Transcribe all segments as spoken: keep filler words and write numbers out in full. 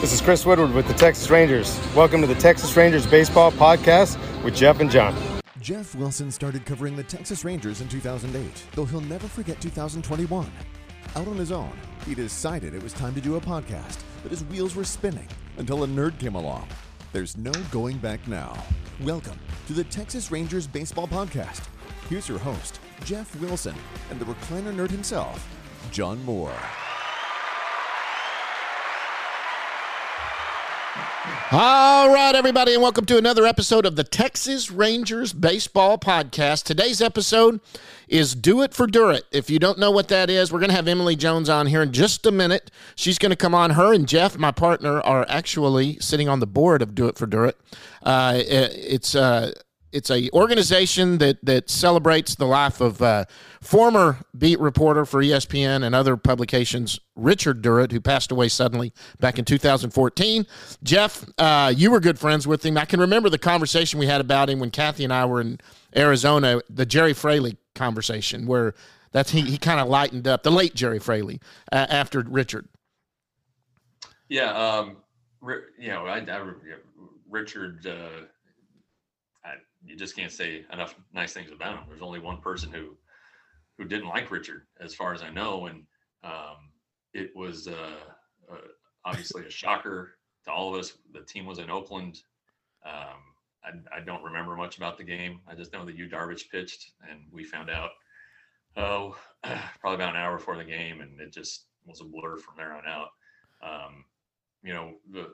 This is Chris Woodward with the Texas Rangers. Welcome to the Texas Rangers Baseball Podcast with Jeff and John. Jeff Wilson started covering the Texas Rangers in two thousand eight, though he'll never forget two thousand twenty-one. Out on his own, he decided it was time to do a podcast, but his wheels were spinning until a nerd came along. There's no going back now. Welcome to the Texas Rangers Baseball Podcast. Here's your host, Jeff Wilson, and the recliner nerd himself, John Moore. All right, everybody, and welcome to another episode of the Texas Rangers Baseball Podcast. Today's episode is Do It for Durrett. If you don't know what that is, we're going to have Emily Jones on here in just a minute. She's going to come on. Her and Jeff, my partner, are actually sitting on the board of Do It for Durrett. Uh, it's uh, it's a organization that that celebrates the life of uh, former beat reporter for E S P N and other publications, Richard Durrett, who passed away suddenly back in two thousand fourteen. Jeff, uh, you were good friends with him. I can remember the conversation we had about him when Kathy and I were in Arizona, the Jerry Fraley conversation, where that's he, he kind of lightened up, the late Jerry Fraley, uh, after Richard. Yeah, um, you know, I, I Richard, uh, I, you just can't say enough nice things about him. There's only one person who who didn't like Richard, as far as I know, and um, it was uh, uh, obviously a shocker to all of us. The team was in Oakland. Um, I, I don't remember much about the game. I just know that Yu Darvish pitched, and we found out, oh, probably about an hour before the game, and it just was a blur from there on out. Um, you know, the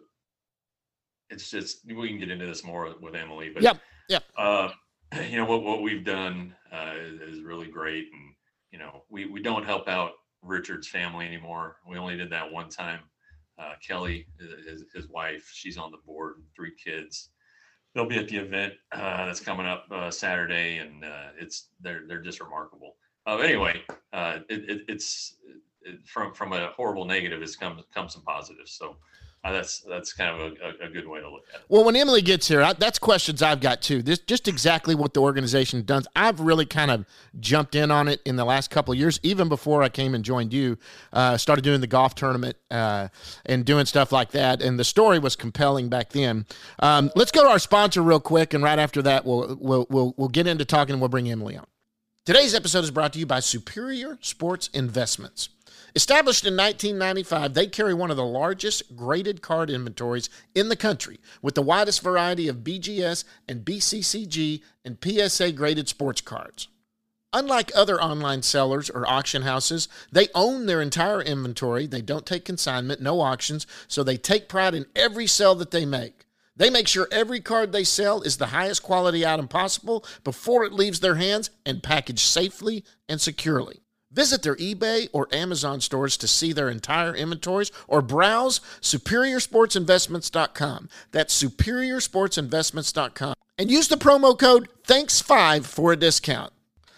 it's just, we can get into this more with Emily, but yep, yep. Uh, you know, what, what we've done uh, is, is really great. And, you know, we, we don't help out Richard's family anymore. We only did that one time. Uh, Kelly, his, his wife, she's on the board, three kids. They'll be at the event uh, that's coming up uh, Saturday, and uh, it's they're they're just remarkable. Uh, anyway, uh, it, it, it's it, from from a horrible negative, it's come come some positives. So uh, that's that's kind of a, a good way to look at it. Well, when Emily gets here, I, that's questions I've got too. This just exactly what the organization does. I've really kind of jumped in on it in the last couple of years, even before I came and joined you. Uh, started doing the golf tournament uh, and doing stuff like that, and the story was compelling back then. Um, let's go to our sponsor real quick, and right after that, we'll we'll we'll we'll get into talking, and we'll bring Emily on. Today's episode is brought to you by Superior Sports Investments. Established in nineteen ninety-five, they carry one of the largest graded card inventories in the country, with the widest variety of B G S and B C C G and P S A graded sports cards. Unlike other online sellers or auction houses, they own their entire inventory. They don't take consignment, no auctions, so they take pride in every sale that they make. They make sure every card they sell is the highest quality item possible before it leaves their hands and packaged safely and securely. Visit their eBay or Amazon stores to see their entire inventories or browse superior sports investments dot com. That's superior sports investments dot com. And use the promo code thanks five for a discount.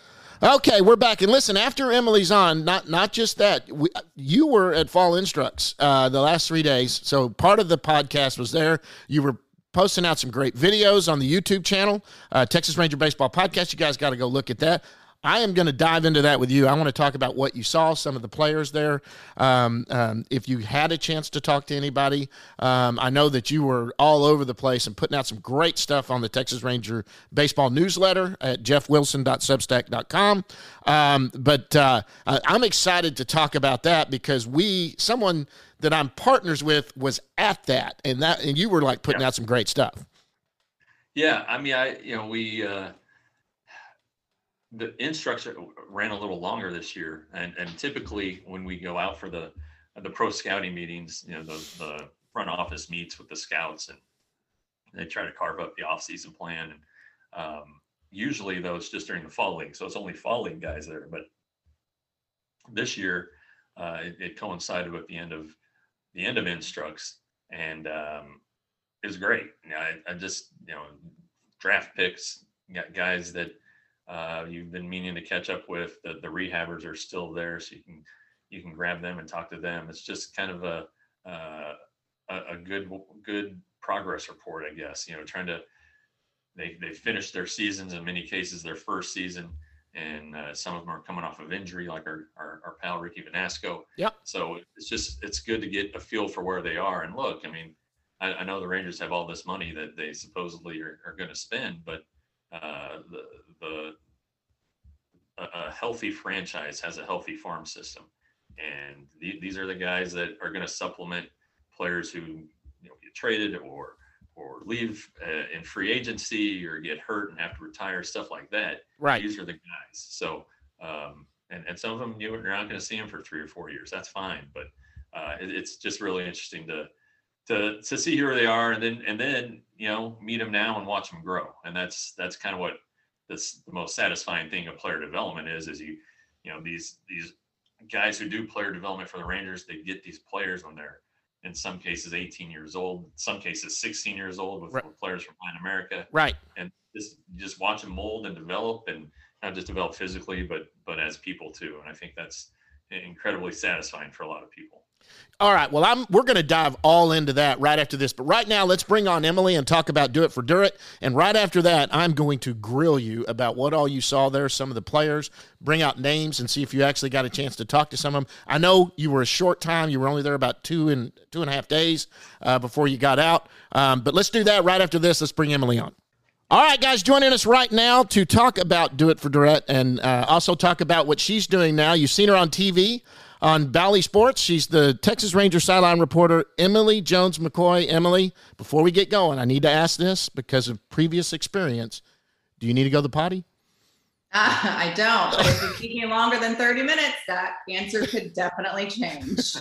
Okay, we're back. And listen, after Emily's on, not not just that, we, you were at Fall Instructs uh, the last three days. So part of the podcast was there. You were posting out some great videos on the YouTube channel, uh, Texas Ranger Baseball Podcast. You guys got to go look at that. I am going to dive into that with you. I want to talk about what you saw, some of the players there. Um, um, if you had a chance to talk to anybody, um, I know that you were all over the place and putting out some great stuff on the Texas Ranger Baseball newsletter at jeff wilson dot substack dot com. Um, but uh, I'm excited to talk about that because we, someone that I'm partners with, was at that, and that, and you were like putting yeah. out some great stuff. Yeah, I mean, I you know we. Uh... The instructs ran a little longer this year, and, and typically when we go out for the the pro scouting meetings, you know, the, the front office meets with the scouts, and they try to carve up the off-season plan. And um, usually, though, it's just during the fall league, so it's only fall league guys there. But this year, uh, it, it coincided with the end of the end of instructs, and um, it was great. You know, I, I just you know draft picks, got guys that. Uh, you've been meaning to catch up with. The, the rehabbers are still there, so you can you can grab them and talk to them. It's just kind of a uh, a, a good good progress report, I guess. You know, trying to they they finished their seasons, in many cases their first season, and uh, some of them are coming off of injury, like our our, our pal Ricky Vanasco. Yep. So it's just it's good to get a feel for where they are. And look, I mean, I, I know the Rangers have all this money that they supposedly are, are going to spend, but uh, the the a, a healthy franchise has a healthy farm system, and the, these are the guys that are going to supplement players who you know get traded or or leave uh, in free agency or get hurt and have to retire, stuff like that. Right. These are the guys. So, um, and, and some of them, you know, you're not going to see them for three or four years. That's fine. But uh, it, it's just really interesting to, to, to see where they are, and then, and then, you know, meet them now and watch them grow. And that's, that's kind of what this, the most satisfying thing of player development is, is you, you know, these, these guys who do player development for the Rangers, they get these players when they're, in some cases eighteen years old, in some cases sixteen years old with, right. with players from Latin America. Right. And just just watch them mold and develop, and not just develop physically, but but as people too. And I think that's incredibly satisfying for a lot of people. All right. Well, I'm we're going to dive all into that right after this. But right now, let's bring on Emily and talk about Do It for Durrett. And right after that, I'm going to grill you about what all you saw there, some of the players, bring out names, and see if you actually got a chance to talk to some of them. I know you were a short time. You were only there about two and two and a half days uh, before you got out. Um, but let's do that right after this. Let's bring Emily on. All right, guys, joining us right now to talk about Do It for Durrett, and uh, also talk about what she's doing now. You've seen her on T V. On Bally Sports. She's the Texas Rangers sideline reporter, Emily Jones-McCoy. Emily, before we get going, I need to ask this because of previous experience. Do you need to go to the potty? Uh, I don't, but if you keep me longer than thirty minutes, that answer could definitely change.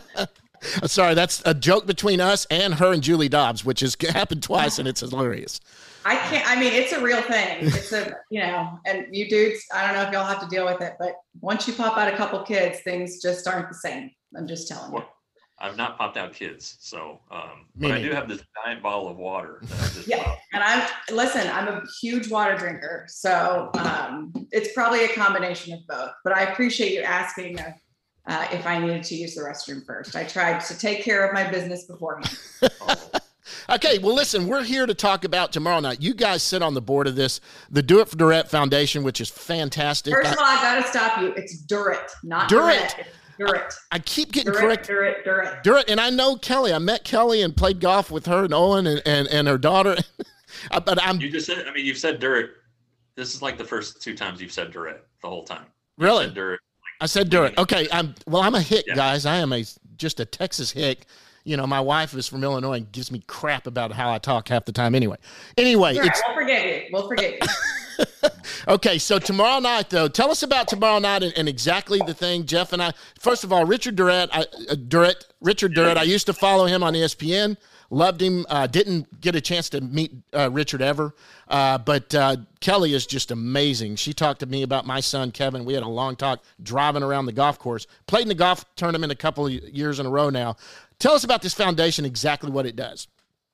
Sorry, that's a joke between us and her and Julie Dobbs, which has happened twice, and it's hilarious. I can't, I mean, it's a real thing. It's a, you know, and you dudes, I don't know if y'all have to deal with it, but once you pop out a couple kids, things just aren't the same. I'm just telling you. Well, I've not popped out kids, so, um, Me but I neither. do have this giant bottle of water. That I just Yeah. popped. And I'm, listen, I'm a huge water drinker. So um, it's probably a combination of both, but I appreciate you asking uh, uh, if I needed to use the restroom first. I tried to take care of my business beforehand. Oh, Okay, well, listen, we're here to talk about tomorrow night. You guys sit on the board of this, the Do It for Durrett Foundation, which is fantastic. First of I, all, I got to stop you. It's Durrett, not Durrett. Durrett. It's Durrett. I keep getting Durrett, correct. Durrett, Durrett. Durrett, and I know Kelly. I met Kelly and played golf with her and Owen and, and, and her daughter. But I'm you just said, I mean, you've said Durrett. This is like the first two times you've said Durrett the whole time. You really. said Durrett. I said Durrett. Okay, I'm well. I'm a hick, Yeah. guys. I am a just a Texas hick. You know, my wife is from Illinois and gives me crap about how I talk half the time. Anyway, anyway, All right, it's we'll forgive you. We'll forgive you. okay. So tomorrow night, though, tell us about tomorrow night and, and exactly the thing. Jeff and I. First of all, Richard Durrett. I, uh, Durrett. Richard Durrett. I used to follow him on E S P N. Loved him. Uh, didn't get a chance to meet uh, Richard ever. Uh, but uh, Kelly is just amazing. She talked to me about my son, Kevin. We had a long talk driving around the golf course. Played in the golf tournament a couple of years in a row now. Tell us about this foundation, exactly what it does.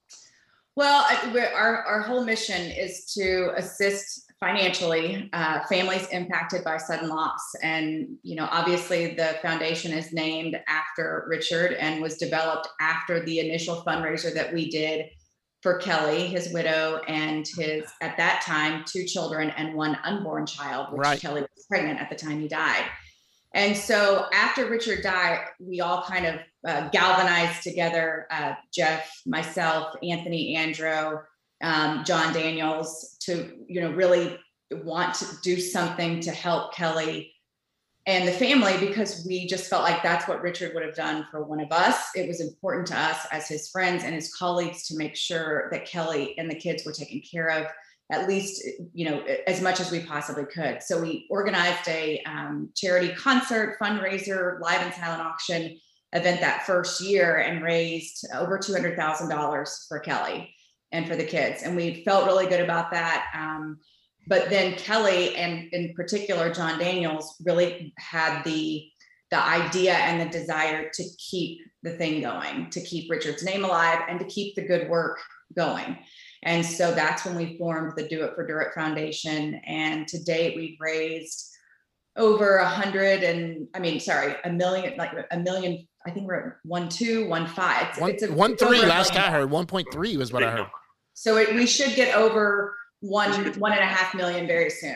Well, I- we're, our, our whole mission is to assist financially uh, families impacted by sudden loss. And, you know, obviously the foundation is named after Richard and was developed after the initial fundraiser that we did for Kelly, his widow, and his, at that time, two children and one unborn child, which Right. Kelly was pregnant at the time he died. And so after Richard died, we all kind of uh, galvanized together, uh, Jeff, myself, Anthony Andro, um, John Daniels, to, you know, really want to do something to help Kelly and the family, because we just felt like that's what Richard would have done for one of us. It was important to us as his friends and his colleagues to make sure that Kelly and the kids were taken care of, at least, you know, as much as we possibly could. So we organized a um, charity concert, fundraiser, live and silent auction event that first year and raised over two hundred thousand dollars for Kelly and for the kids. And we felt really good about that. Um, but then Kelly, and in particular, John Daniels, really had the, the idea and the desire to keep the thing going, to keep Richard's name alive and to keep the good work going. And so that's when we formed the Do It for Durrett Foundation. And to date, we've raised over a hundred and, I mean, sorry, a million, like a million, I think we're at one, two, one, five. It's, One, it's a, one it's three, over a last million. I heard. one point three was what I heard. So it, we should get over one, one and a half million very soon.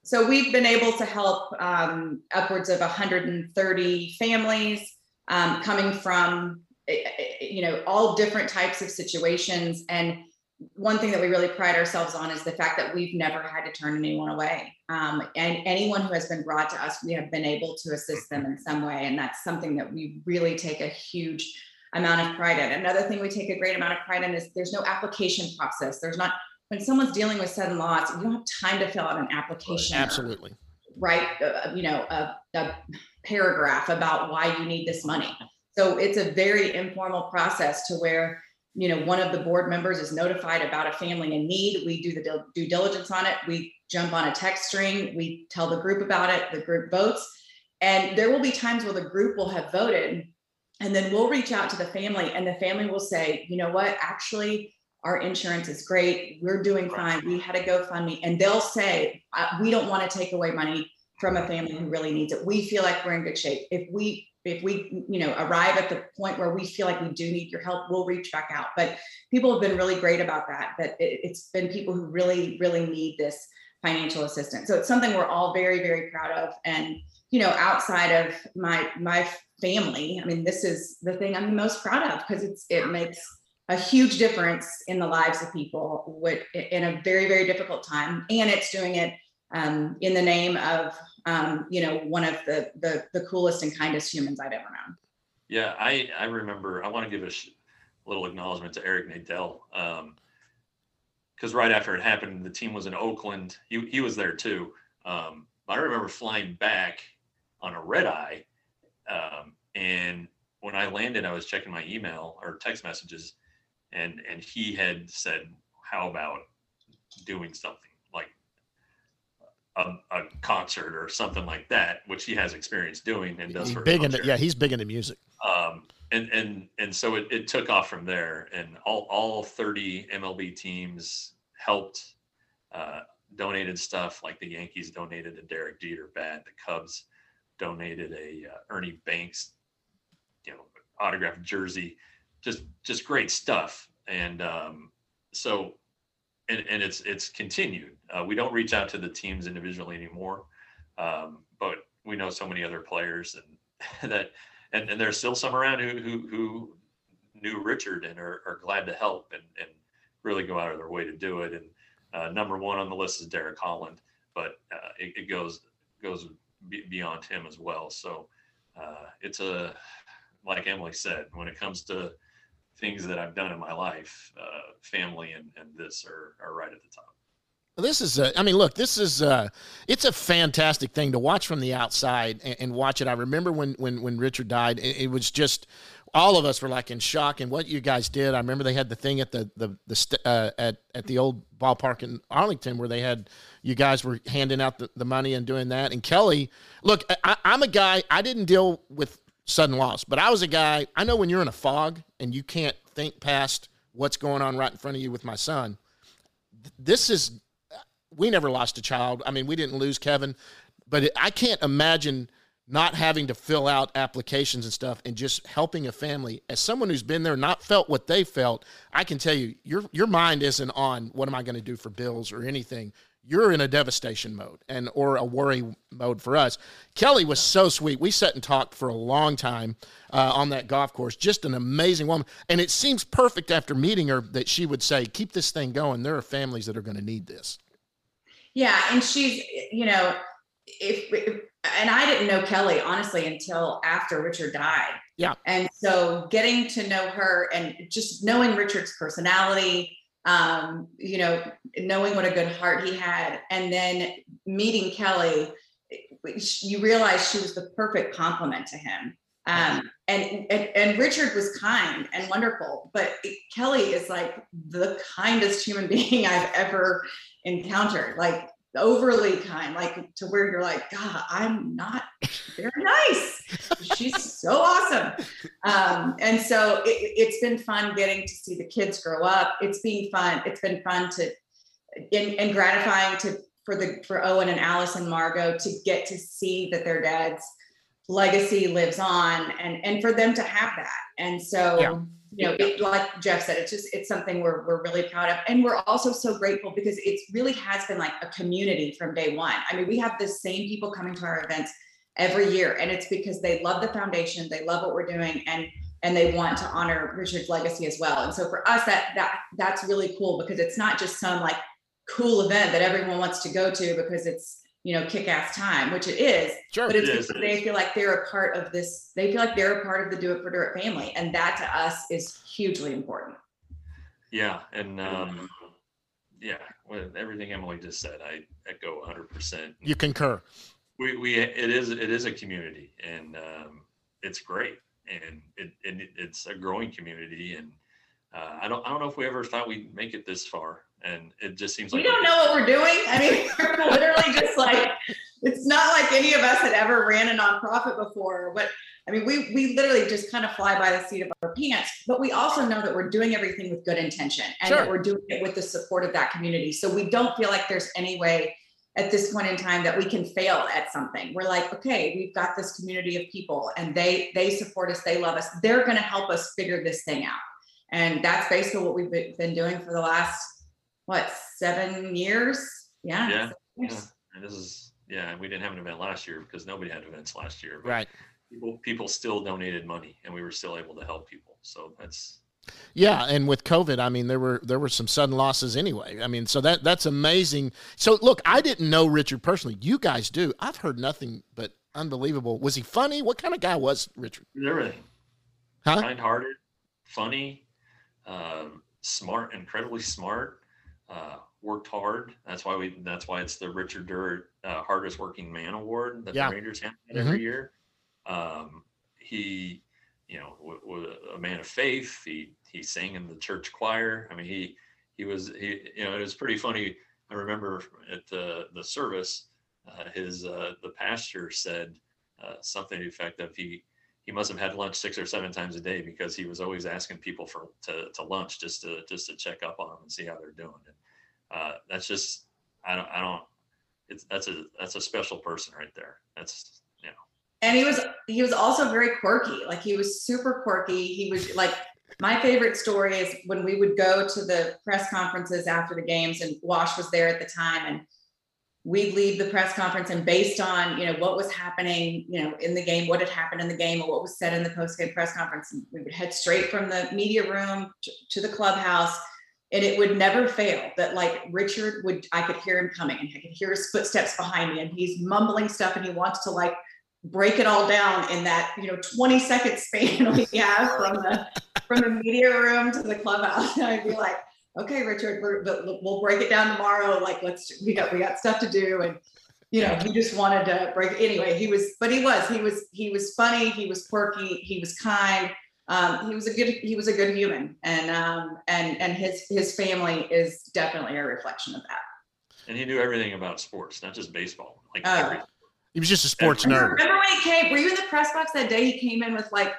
So we've been able to help um, upwards of one hundred thirty families um, coming from, you know, all different types of situations. And one thing that we really pride ourselves on is the fact that we've never had to turn anyone away. Um, and anyone who has been brought to us, we have been able to assist them in some way. And that's something that we really take a huge amount of pride in. Another thing we take a great amount of pride in is there's no application process. There's not, when someone's dealing with sudden loss, you don't have time to fill out an application. Absolutely. Or write, uh, you know, a, a paragraph about why you need this money. So it's a very informal process to where, you know, one of the board members is notified about a family in need. We do the due diligence on it. We jump on a text string. We tell the group about it. The group votes. And there will be times where the group will have voted, and then we'll reach out to the family, and the family will say, you know what, actually, our insurance is great. We're doing fine. We had a GoFundMe. And they'll say, we don't want to take away money from a family who really needs it. We feel like we're in good shape. If we If we, you know, arrive at the point where we feel like we do need your help, we'll reach back out. But people have been really great about that, that it, it's been people who really, really need this financial assistance. So it's something we're all very, very proud of. And, you know, outside of my, my family, I mean, this is the thing I'm the most proud of, because it's, it makes a huge difference in the lives of people with, in a very, very difficult time. And it's doing it um, in the name of, um, you know, one of the, the, the coolest and kindest humans I've ever known. Yeah. I, I remember, I want to give a sh- little acknowledgement to Eric Nadell. Um, cause right after it happened, the team was in Oakland. He, he was there too. Um, I remember flying back on a red eye. Um, and when I landed, I was checking my email or text messages, and, and he had said, how about doing something like A, a concert or something like that, which he has experience doing and does he's for big into, yeah, he's big into music. Um, and and and so it, it took off from there, and all all thirty M L B teams helped, uh, donated stuff, like the Yankees donated a Derek Jeter bat, the Cubs donated a uh, Ernie Banks, you know, autographed jersey, just just great stuff. And um, so. And, and it's it's continued. Uh, we don't reach out to the teams individually anymore, um, but we know so many other players, and that and, and there's still some around who who, who knew Richard and are, are glad to help and, and really go out of their way to do it. And uh, number one on the list is Derek Holland, but uh, it, it goes goes b- beyond him as well. So uh, it's a, like Emily said, when it comes to things that I've done in my life, uh, family and, and this are, are right at the top. This is, uh, I mean, look, this is, uh, it's a fantastic thing to watch from the outside and, and watch it. I remember when, when, when Richard died, it, it was just, all of us were like in shock. And what you guys did, I remember they had the thing at the, the, the, st- uh, at, at the old ballpark in Arlington where they had, you guys were handing out the, the money and doing that. And Kelly, look, I, I'm a guy, I didn't deal with sudden loss, but I was a guy, I know when you're in a fog and you can't think past what's going on right in front of you with my son. This is, we never lost a child. I mean, we didn't lose Kevin, but it, I can't imagine not having to fill out applications and stuff and just helping a family. As someone who's been there, not felt what they felt, I can tell you, your your mind isn't on what am I going to do for bills or anything. You're in a devastation mode and or a worry mode for us. Kelly was so sweet. We sat and talked for a long time uh, on that golf course. Just an amazing woman. And it seems perfect after meeting her that she would say, keep this thing going. There are families that are going to need this. Yeah. And she's, you know, if, if and I didn't know Kelly, honestly, until after Richard died. Yeah. And so getting to know her and just knowing Richard's personality, um, you know, knowing what a good heart he had, and then meeting Kelly, you realize she was the perfect complement to him. Um, and, and, and Richard was kind and wonderful, but Kelly is like the kindest human being I've ever encountered, like overly kind, like to where you're like, God, I'm not very nice. She's so awesome. Um, and so it, it's been fun getting to see the kids grow up. It's been fun. It's been fun to, and, and gratifying to, for the, for Owen and Alice and Margot to get to see that their dad's legacy lives on, and, and for them to have that. And so, yeah. you know, it, like Jeff said, it's just, it's something we're, we're really proud of. And we're also so grateful because it really has been like a community from day one. I mean, we have the same people coming to our events every year, and it's because they love the foundation, they love what we're doing, and and they want to honor Richard's legacy as well. And so for us, that that that's really cool, because it's not just some like cool event that everyone wants to go to because it's, you know, kick-ass time, which it is, Sure, but it's it is, because it they is. feel like they're a part of this, they feel like they're a part of the Do It for Dirt family. And that to us is hugely important. Yeah. And um, yeah, with everything Emily just said, I echo one hundred percent. You concur. We, we, it is, it is a community, and um, it's great. And it, it, it's a growing community. And uh, I don't, I don't know if we ever thought we'd make it this far. And it just seems We like don't know what we're doing. I mean, we're literally just like, it's not like any of us had ever ran a nonprofit before, but I mean, we we literally just kind of fly by the seat of our pants, but we also know that we're doing everything with good intention, and Sure. that we're doing it with the support of that community. So we don't feel like there's any way at this point in time that we can fail at something. We're like, okay, we've got this community of people, and they they support us, they love us. They're going to help us figure this thing out. And that's basically what we've been doing for the last, what, seven years? Yeah. Yeah. seven years. Yeah. And this is, yeah, we didn't have an event last year because nobody had events last year. But Right. People, people still donated money, and we were still able to help people. So that's, Yeah, and with COVID, I mean, there were there were some sudden losses anyway. I mean, so that that's amazing. So look, I didn't know Richard personally. You guys do. I've heard nothing but unbelievable. Was he funny? What kind of guy was Richard? everything. Huh? Kind-hearted, funny, um, smart, incredibly smart, uh, worked hard. That's why we, that's why it's the Richard Durr uh, hardest working man award that Yeah. the Rangers have Mhm. every year. Um, he, you know, w- was a man of faith. He, he sang in the church choir. I mean, he, he was, he, you know, it was pretty funny. I remember at the, the service, uh, his, uh, the pastor said, uh, something to the effect of he, he must have had lunch six or seven times a day, because he was always asking people for, to, to lunch just to, just to check up on them and see how they're doing. And, uh, that's just, I don't, I don't, it's, that's a, that's a special person right there. That's, you know. And he was he was also very quirky. Like, he was super quirky. He was like, my favorite story is when we would go to the press conferences after the games, and Wash was there at the time, and we'd leave the press conference, and based on, you know, what was happening, you know, in the game, what had happened in the game, or what was said in the post-game press conference, we would head straight from the media room to, to the clubhouse. And it would never fail that, like, Richard would, I could hear him coming, and I could hear his footsteps behind me, and he's mumbling stuff, and he wants to like break it all down in that, you know, twenty second span we have from the from the media room to the clubhouse. And I'd be like, okay, Richard, we're, but we'll break it down tomorrow. Like, let's, we got we got stuff to do. And you know, he just wanted to break it. Anyway, he was, but he was, he was, he was funny, he was quirky, he was kind. Um, he was a good, he was a good human, and um, and and his his family is definitely a reflection of that. And he knew everything about sports, not just baseball, like Oh. everything. He was just a sports Every- nerd. Remember when he came? Were you in the press box that day? He came in with like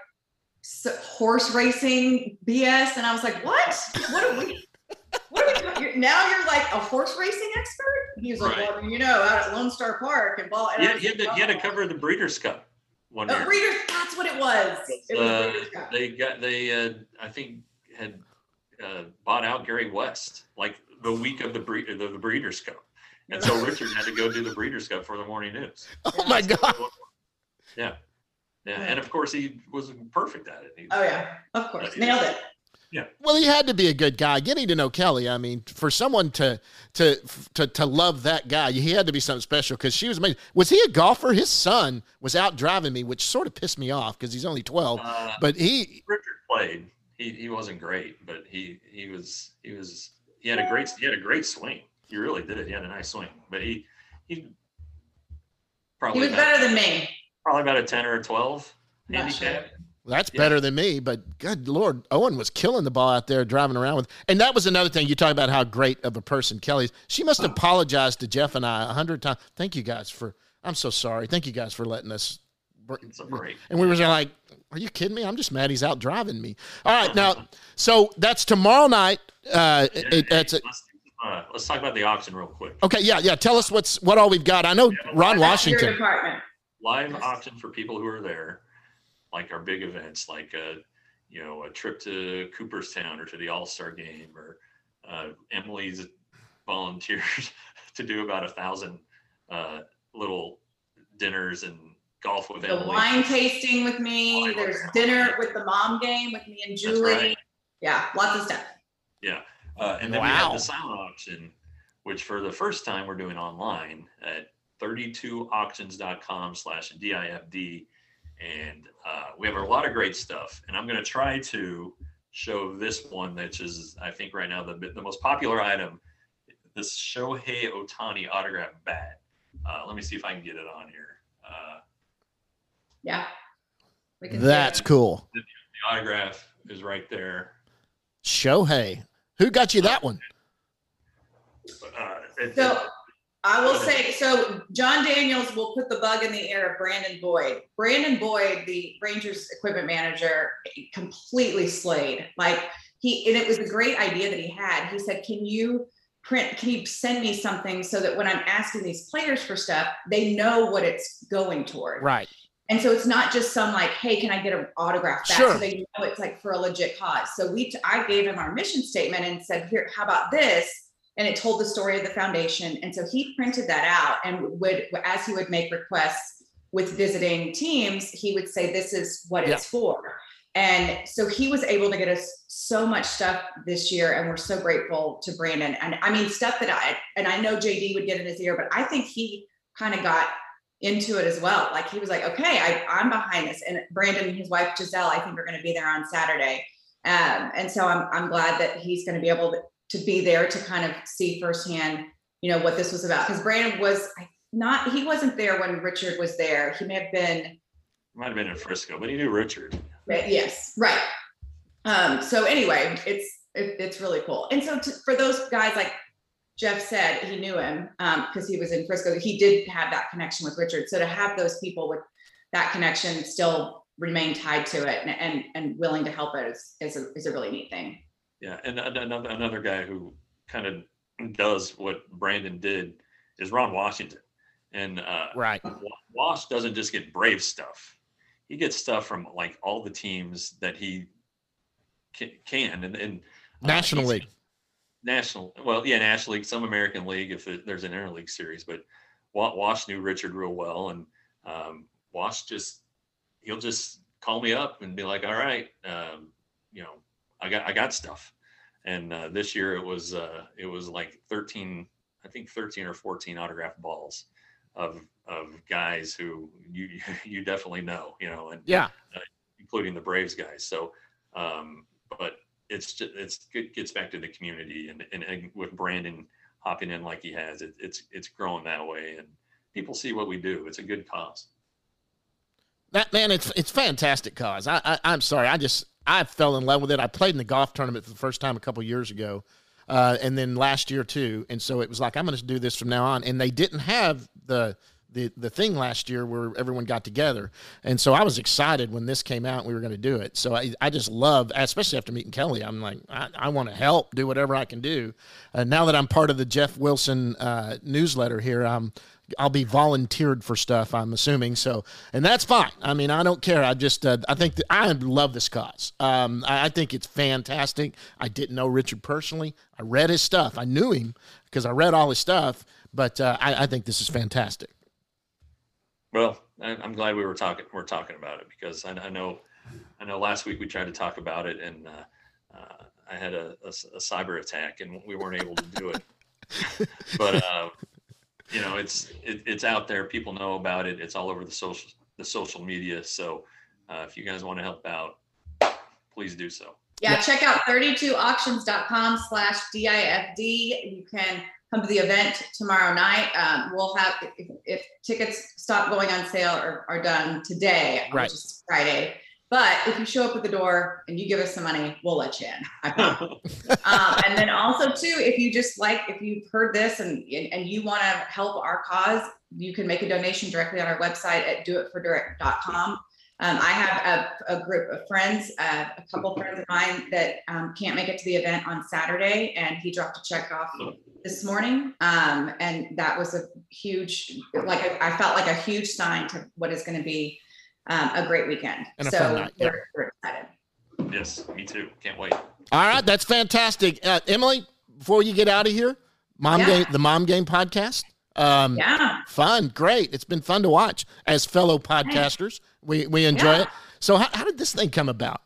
s- horse racing B S, and I was like, "What? What are we? What are we doing? You're- Now you're like a horse racing expert?" He was like, Right. "Well, you know, out at Lone Star Park and ball." And He I had, was he had like, to, he had to "Oh." cover the Breeders' Cup one Oh, year. Breeders, that's what it was. It was Uh, Breeders' Cup. they got they uh, I think had uh, bought out Gary West like the week of the breed the, the Breeders' Cup, and so Richard had to go do the Breeders' Cup for the morning news. Oh my God. Yeah, yeah, and of course he was perfect at it. He, Oh yeah, of course, nailed it. Well, he had to be a good guy. Getting to know Kelly, I mean, for someone to to to to love that guy, he had to be something special, because she was amazing. Was he a golfer? His son was out driving me, which sort of pissed me off because he's only twelve. Uh, But he, Richard played. He he wasn't great, but he he was he was he had a great he had a great swing. He really did. He had a nice swing, but he he He probably was about, better than me. probably about a ten or a twelve Not handicap. that's Yeah. better than me. But good Lord, Owen was killing the ball out there driving around with. And that was another thing. You talk about how great of a person Kelly is. She must have apologized to Jeff and I a hundred times. Thank you guys for. I'm so sorry. Thank you guys for letting us. It's a break. And we were like, are you kidding me? I'm just mad he's out driving me. All right, now, so that's tomorrow night. Uh, Yeah, it, that's hey, it. let's, uh, let's talk about the auction real quick. Okay, yeah, yeah. Tell us what's what all we've got. I know Ron Your Washington. department. Live auction for people who are there, like our big events, like uh, you know, a trip to Cooperstown or to the All-Star game, or uh, Emily's volunteered to do about a thousand uh, little dinners and golf with The Emily. wine tasting with me. Wine There's with dinner with the mom game with me and Julie. right. Yeah, lots of stuff. Yeah. Uh, and then we Wow. have the silent auction, which for the first time we're doing online at thirty-two auctions dot com slash D I F D. And uh, we have a lot of great stuff. And I'm going to try to show this one, which is, I think right now, the, the most popular item, this Shohei Ohtani autograph bat. Uh, let me see if I can get it on here. Uh, Yeah. We can do That's it. cool. the autograph is right there. Shohei. Who got you that one? Uh, it- So I will say, so John Daniels will put the bug in the ear of Brandon Boyd. Brandon Boyd, the Rangers equipment manager, completely slayed. Like he, and it was a great idea that he had. He said, can you print, can you send me something so that when I'm asking these players for stuff, they know what it's going toward. Right. And so it's not just some like, hey, can I get an autograph back? Sure. So they know it's like for a legit cause. So we, t- I gave him our mission statement and said, here, how about this? And it told the story of the foundation. And so he printed that out, and would, as he would make requests with visiting teams, he would say, this is what it's Yeah. for. And so he was able to get us so much stuff this year. And we're so grateful to Brandon. And I mean, stuff that I, and I know J D would get in his ear, but I think he kind of got into it as well. Like he was like, okay, I, I'm behind this. And Brandon and his wife, Giselle, I think are going to be there on Saturday. Um, and so I'm, I'm glad that he's going to be able to, to be there to kind of see firsthand, you know, what this was about. Because Brandon was not, he wasn't there when Richard was there. He may have been. Might have been in Frisco, but he knew Richard. Yes, right. Um, so anyway, it's it, it's really cool. And so to, for those guys, like Jeff said, he knew him because um, he was in Frisco. He did have that connection with Richard. So to have those people with that connection still remain tied to it and and, and willing to help it is is a, is a really neat thing. Yeah, and another another guy who kind of does what Brandon did is Ron Washington, and uh, Right. Wash doesn't just get Brave stuff; he gets stuff from like all the teams that he can, can and, and uh, National League. National, well, yeah, National League, some American League if it, there's an interleague series, but Wash knew Richard real well, and um, Wash just he'll just call me up and be like, "All right, um, you know, I got I got stuff." And uh, this year it was uh, it was like thirteen, I think thirteen or fourteen autographed balls of of guys who you you definitely know, you know, and Yeah. uh, including the Braves guys. So, um, but it's just it's it gets back to the community, and, and and with Brandon hopping in like he has, it, it's it's growing that way, and people see what we do. It's a good cause. That man, it's it's fantastic cause. I, I I'm sorry, I just I fell in love with it. I played in the golf tournament for the first time a couple of years ago, uh, and then last year too. And so it was like I'm going to do this from now on. And they didn't have the the the thing last year where everyone got together, and so I was excited when this came out and we were going to do it. So I I just love, especially after meeting Kelly, I'm like I, I want to help, do whatever I can do. Uh, now that I'm part of the Jeff Wilson uh, newsletter here, I'm. I'll be volunteered for stuff, I'm assuming. So, and that's fine. I mean, I don't care. I just, uh, I think that I love this cause. Um, I, I think it's fantastic. I didn't know Richard personally. I read his stuff. I knew him because I read all his stuff, but uh, I, I think this is fantastic. Well, I- I'm glad we were talking, we're talking about it because I, I know, I know last week we tried to talk about it and uh, uh, I had a, a, a cyber attack and we weren't able to do it, but uh, you know, it's it, it's out there. People know about it. It's all over the social the social media. So uh, if you guys want to help out, please do so. Yeah, Yeah. check out thirty-two auctions dot com slash D I F D. You can come to the event tomorrow night. Um, we'll have if, if tickets stop going on sale or are done today, Right. which is Friday. But if you show up at the door and you give us some money, we'll let you in. I promise. um, and then also too, if you just like, if you've heard this and and you want to help our cause, you can make a donation directly on our website at do it for direct dot com. Um, I have a, a group of friends, uh, a couple of friends of mine that um, can't make it to the event on Saturday, and he dropped a check off this morning. Um, and that was a huge, like I, I felt like a huge sign to what is going to be um, a great weekend. And a so fun night, yeah. we're, we're excited. Yes, me too. Can't wait. All right, that's fantastic. Uh, Emily, before you get out of here, Mom Yeah. Game, the Mom Game podcast. Um, Yeah. Fun, great. It's been fun to watch as fellow podcasters. We we enjoy Yeah. it. So how, how did this thing come about?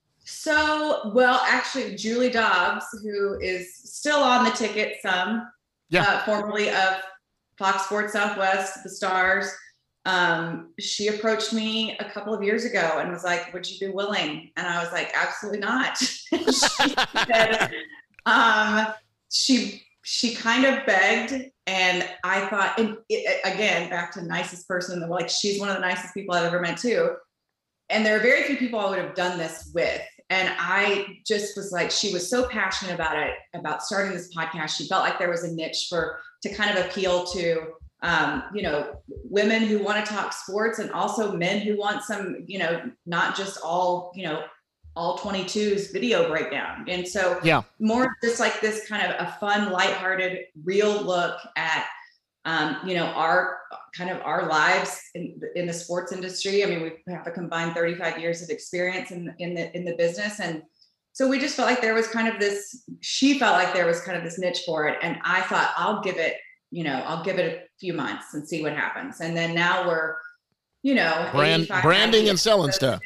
So, well, actually, Julie Dobbs, who is still on the ticket, some, Yeah. uh, formerly of Fox Sports Southwest, the Stars, um, she approached me a couple of years ago and was like, would you be willing? And I was like, absolutely not. she said, um, she, she kind of begged, and I thought, and it, again, back to nicest person in the world, like she's one of the nicest people I've ever met too. And there are very few people I would have done this with. And I just was like, she was so passionate about it, about starting this podcast. She felt like there was a niche for, to kind of appeal to, um, you know, women who want to talk sports, and also men who want some, you know, not just all, you know, all twenty-twos video breakdown. And so Yeah. more just like this kind of a fun, lighthearted, real look at, um, you know, our kind of our lives in, in the sports industry. I mean, we have a combined thirty-five years of experience in, in the, in the business. And so we just felt like there was kind of this, she felt like there was kind of this niche for it. And I thought, I'll give it, you know, I'll give it a few months and see what happens. And then now we're, you know, Brand, branding and selling stuff.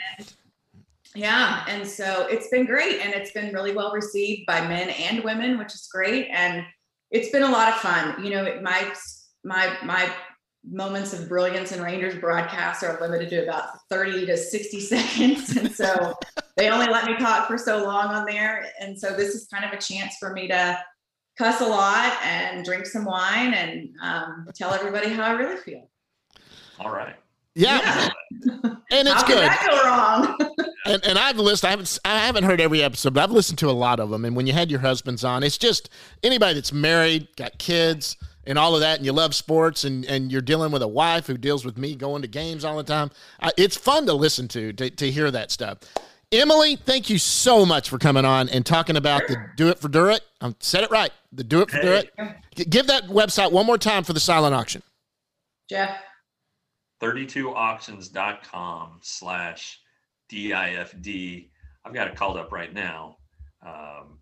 Yeah. And so it's been great. And it's been really well received by men and women, which is great. And it's been a lot of fun. You know, my, my, my moments of brilliance in Rangers broadcasts are limited to about thirty to sixty seconds. And so they only let me talk for so long on there. And so this is kind of a chance for me to cuss a lot and drink some wine and um, tell everybody how I really feel. All right. Yeah. Yeah. And it's How good. could that go wrong? And, and I've listened. I haven't. I haven't heard every episode, but I've listened to a lot of them. And when you had your husbands on, it's just anybody that's married, got kids, and all of that, and you love sports, and, and you're dealing with a wife who deals with me going to games all the time. Uh, it's fun to listen to, to to hear that stuff. Emily, thank you so much for coming on and talking about the Do It for Durrett. I said it right. The Do It for Hey. Durrett. G- give that website one more time for the silent auction. Jeff. thirty-two auctions dot com slash D I F D. I've got it called up right now. Um,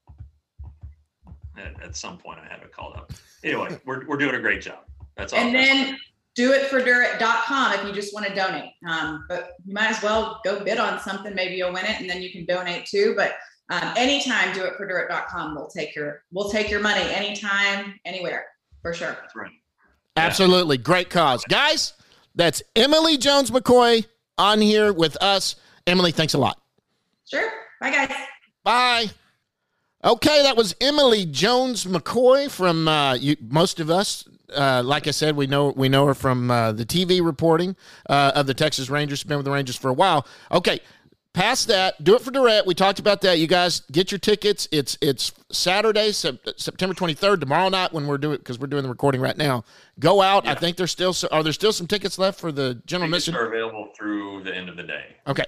at, at some point I have it called up. Anyway, we're, we're doing a great job. That's all. And then do it for durrett dot com if you just want to donate. Um, but you might as well go bid on something. Maybe you'll win it and then you can donate too. But um, anytime, do it for durrett dot com. We'll take your, we'll take your money anytime, anywhere, for sure. That's right. Absolutely. Great cause. Guys, that's Emily Jones McCoy on here with us. Emily, thanks a lot. Sure. Bye, guys. Bye. Okay, that was Emily Jones McCoy from uh, you, most of us. Uh, like I said, we know we know her from uh, the T V reporting uh, of the Texas Rangers. She's been with the Rangers for a while. Okay, past that, Do It for Durrett. We talked about that. You guys get your tickets. It's it's Saturday, sep- September twenty-third, tomorrow night when we're doing because we're doing the recording right now. Go out. Yeah. I think there's still so, are there still some tickets left for the general Tickets mission? are available through the end of the day. Okay.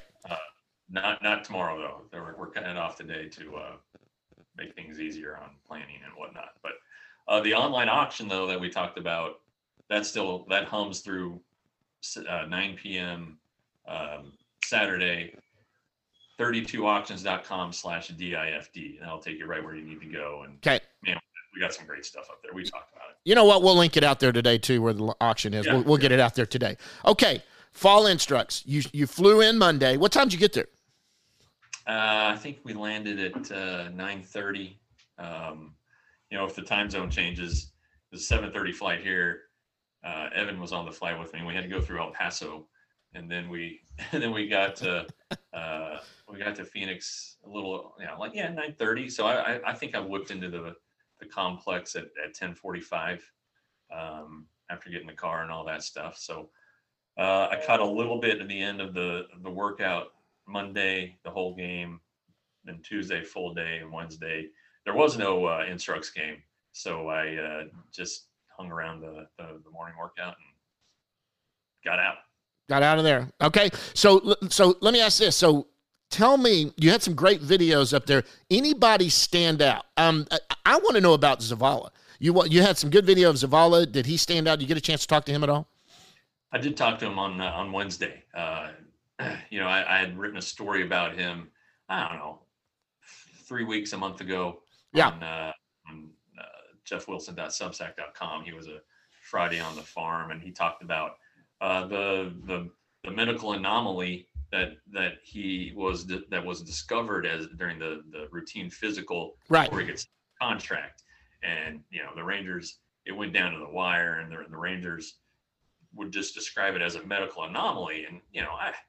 Not not tomorrow though. We're, we're cutting it off today to uh, make things easier on planning and whatnot. But uh, the online auction though that we talked about, that's still that hums through uh, nine p.m. Um, Saturday. thirty-two auctions dot com slash D I F D, and that'll take you right where you need to go. And Okay. man, we got some great stuff up there. We talked about it. You know what? We'll link it out there today too, where the auction is. Yeah. We'll, we'll get it out there today. Okay. Fall instructs. You you flew in Monday. What time did you get there? Uh, I think we landed at uh, nine thirty. Um, you know, if the time zone changes, there's a seven thirty flight here. Uh, Evan was on the flight with me. We had to go through El Paso, and then we and then we got to uh, we got to Phoenix a little, you know, like yeah, nine thirty. So I, I I think I whipped into the the complex at at ten forty-five um, after getting the car and all that stuff. So uh, I caught a little bit at the end of the the workout. Monday, the whole game, then Tuesday, full day, and Wednesday. There was no uh, Instructs game, so I uh, just hung around the, the, the morning workout and got out. Got out of there. Okay. So so let me ask this. So tell me, you had some great videos up there. Anybody stand out? Um, I, I want to know about Zavala. You wa- you had some good video of Zavala. Did he stand out? Did you get a chance to talk to him at all? I did talk to him on uh, on Wednesday. Uh, you know, I, I had written a story about him I don't know, three weeks, a month ago Yeah. on, uh, on uh, jeff wilson dot substack dot com. He was a Friday on the Farm, and he talked about uh, the, the the medical anomaly that that he was that was discovered as during the the routine physical Right. before he gets the contract. And you know, the Rangers, it went down to the wire, and the, the Rangers would just describe it as a medical anomaly. And you know, I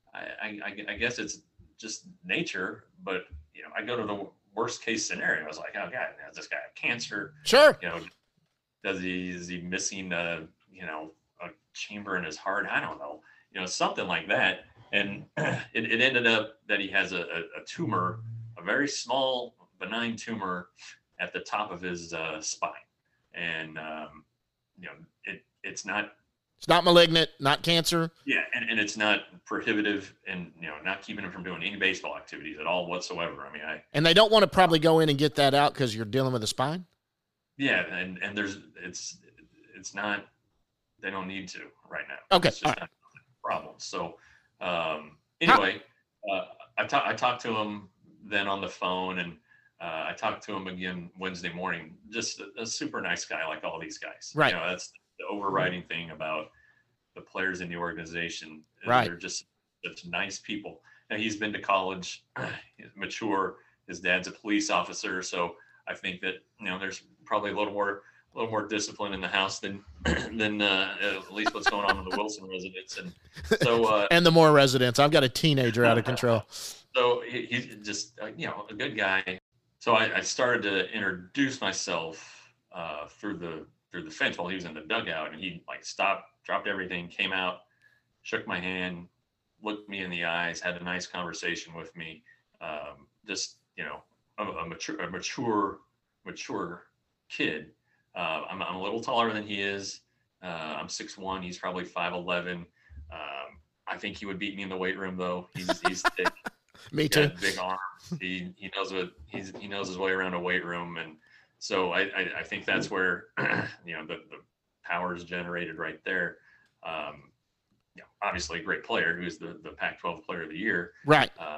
I, I I guess it's just nature, but you know, I go to the worst case scenario. I was like, oh God, has this guy have cancer? Sure. You know, does he is he missing a you know a chamber in his heart? I don't know. You know, something like that. And it, it ended up that he has a, a, a tumor, a very small benign tumor at the top of his uh, spine. And um, you know, it it's not It's not malignant, not cancer. yeah, and, and it's not prohibitive, and you know, not keeping him from doing any baseball activities at all whatsoever. I mean, I And they don't want to probably go in and get that out because you're dealing with a spine. yeah, and and there's it's it's not they don't need to right now. Okay, It's just all right. not a problem. So um, anyway, uh, I talked I talked to him then on the phone, and uh, I talked to him again Wednesday morning. Just a, a super nice guy, like all these guys. Right. You know, that's the overriding thing about the players in the organization. Right. They're just such nice people. Now, he's been to college, he's mature. His dad's a police officer, so I think that you know there's probably a little more a little more discipline in the house than than uh, at least what's going on in the Wilson residence. And so uh, And the more residents. I've got a teenager out of control. so he, he's just uh, you know a good guy. So I, I started to introduce myself uh, through the through the fence while he was in the dugout, and he like stopped, dropped everything, came out, shook my hand, looked me in the eyes, had a nice conversation with me. Um, just you know, a, a mature, a mature, mature kid. Uh, I'm, I'm a little taller than he is. Uh, I'm six one. He's probably five eleven. Um, I think he would beat me in the weight room, though. He's he's thick. Me He's too. got big arms. He he knows what he's he knows his way around a weight room, and so I I, I think that's where you know the, the power is generated right there. Um, you know, obviously a great player who's the the Pac twelve Player of the Year. Right. Uh,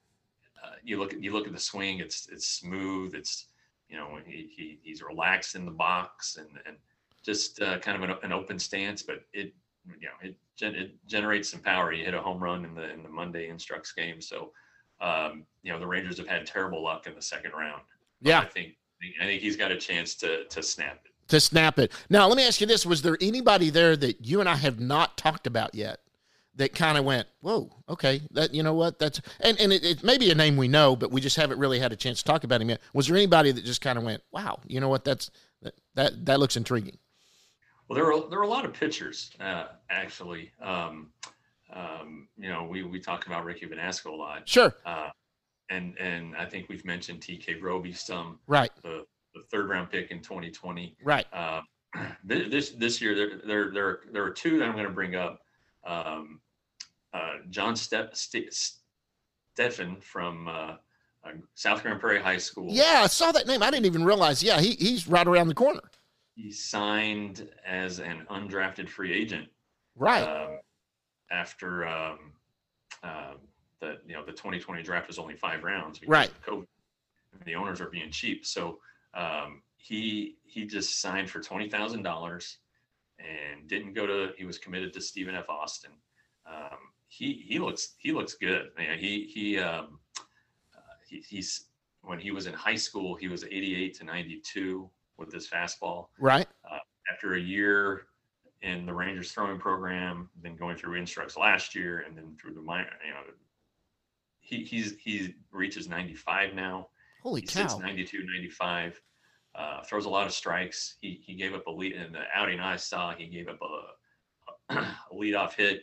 uh, you look at you look at the swing. It's it's smooth. It's you know he, he he's relaxed in the box and and just uh, kind of an, an open stance, but it you know it gen- it generates some power. He hit a home run in the in the Monday Instructs game, so um, you know the Rangers have had terrible luck in the second round. But Yeah. I think I think he's got a chance to to snap it. To snap it. Now, let me ask you this. Was there anybody there that you and I have not talked about yet that kind of went, whoa, okay, that, you know what, that's, and, and it, it may be a name we know, but we just haven't really had a chance to talk about him yet. Was there anybody that just kind of went, wow, you know what, that's, that, that, that looks intriguing? Well, there were there were a lot of pitchers uh, actually. Um, um, you know, we we talk about Ricky Vanasco a lot. Sure. Uh, and and I think we've mentioned T K Roby some, Right. the, the third round pick in twenty twenty. Right. Uh, this this year there there there there are two that I'm going to bring up. Um, uh, John Ste- Ste- Steffen from uh, uh, South Grand Prairie High School. Yeah, I saw that name. I didn't even realize. Yeah, he he's right around the corner. He signed as an undrafted free agent. Right. Um, after um, uh, the you know the twenty twenty draft was only five rounds because Right. of COVID. The owners are being cheap, so um, he he just signed for twenty thousand dollars and didn't go to. He was committed to Stephen F. Austin. Um, he he looks he looks good. Man, he he, um, uh, he he's when he was in high school he was eighty-eight to ninety-two with his fastball. Right. Uh, after a year in the Rangers throwing program, then going through Instructs last year, and then through the minor, you know, he he's he reaches ninety-five now. Holy He sits cow. ninety-two, ninety-five. Uh, throws a lot of strikes. He he gave up a lead in the outing I saw. He gave up a, a leadoff hit.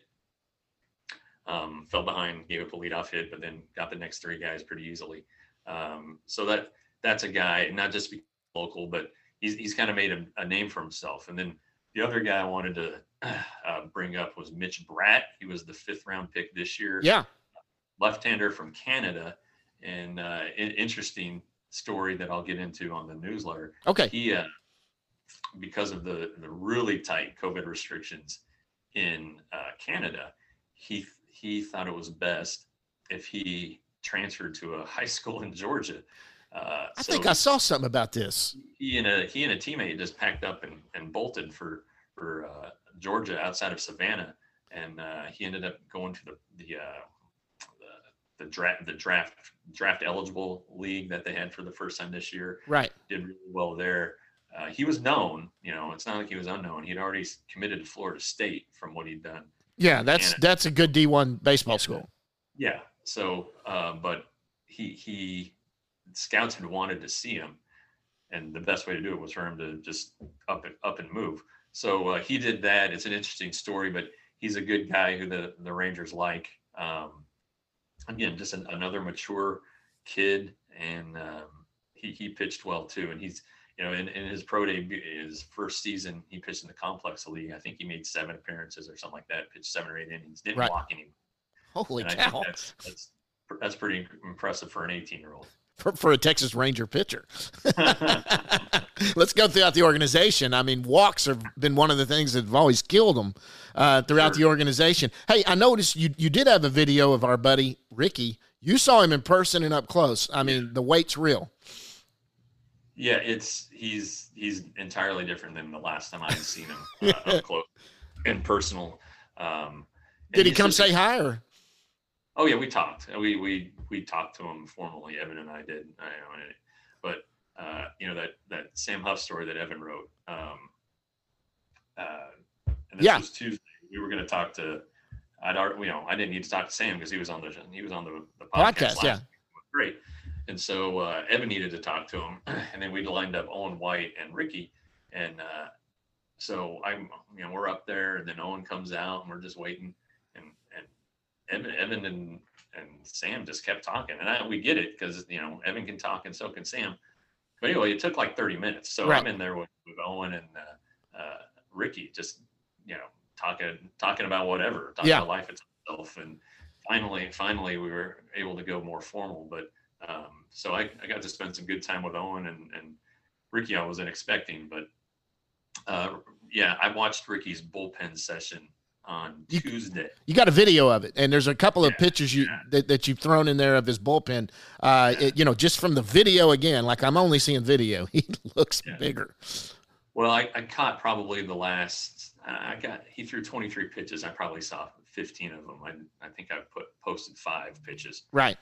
Um, fell behind, gave up a leadoff hit, but then got the next three guys pretty easily. Um, so that that's a guy, not just because local, but he's he's kind of made a, a name for himself. And then the other guy I wanted to uh, bring up was Mitch Bratt. He was the fifth round pick this year. Yeah. Left-hander from Canada. And uh, an interesting story that I'll get into on the newsletter. Okay. He, uh, because of the the really tight COVID restrictions in uh, Canada, he he thought it was best if he transferred to a high school in Georgia. Uh, I so think I saw something about this. He and a he and a teammate just packed up and, and bolted for for uh, Georgia outside of Savannah, and uh, he ended up going to the the, uh, the the draft the draft draft eligible league that they had for the first time this year. Right. Did really well there. Uh, he was known, you know, it's not like he was unknown. He'd already committed to Florida State from what he'd done. Yeah, that's And, that's a good D one baseball school. Yeah. So, uh, but he he scouts had wanted to see him, and the best way to do it was for him to just up and up and move. So uh, he did that. It's an interesting story, but he's a good guy who the the Rangers like. Um, again, just an, another mature kid, and um, he he pitched well too. And he's you know in, in his pro debut, his first season, he pitched in the Complex League. I think he made seven appearances or something like that. Pitched seven or eight innings. Didn't Right. walk anyone. Holy And I cow. think that's that's that's pretty impressive for an eighteen-year-old. For, for a Texas Ranger pitcher. Let's go throughout the organization. I mean, walks have been one of the things that have always killed them uh, throughout Sure. the organization. Hey, I noticed you you did have a video of our buddy Ricky. You saw him in person and up close. I mean, the weight's real. Yeah, it's he's he's entirely different than the last time I'd seen him uh, up close and personal. Um, and Did he he's come just- say hi or? Oh yeah, we talked. We we we talked to him formally. Evan and I did. I know, and- but uh, you know that that Sam Huff story that Evan wrote. Um, uh, and this Yeah. was Tuesday. We were going to talk to. I'd already, you know, I didn't need to talk to Sam because he was on the he was on the, the podcast. Podcast, last yeah. week. It was great. And so uh, Evan needed to talk to him, and then we lined up Owen White and Ricky, and uh, so I'm, you know, we're up there, and then Owen comes out, and we're just waiting, and and Evan, Evan and and Sam just kept talking, and I, we get it because you know Evan can talk and so can Sam. But anyway, it took like thirty minutes, so Right. I'm in there with, with Owen and uh, uh, Ricky, just you know talking talking about whatever, talking Yeah. about life itself, and finally, finally, we were able to go more formal, but. Um, so I, I got to spend some good time with Owen and, and Ricky. I wasn't expecting, but uh, yeah, I watched Ricky's bullpen session on You- Tuesday. You got a video of it, and there's a couple of Yeah, pictures you yeah. that, that you've thrown in there of his bullpen. Uh, it, you know, just from the video again, like I'm only seeing video. He looks Yeah. bigger. Well, I, I caught probably the last. I got he threw twenty-three pitches. I probably saw fifteen of them. I I think I put posted five pitches. Right.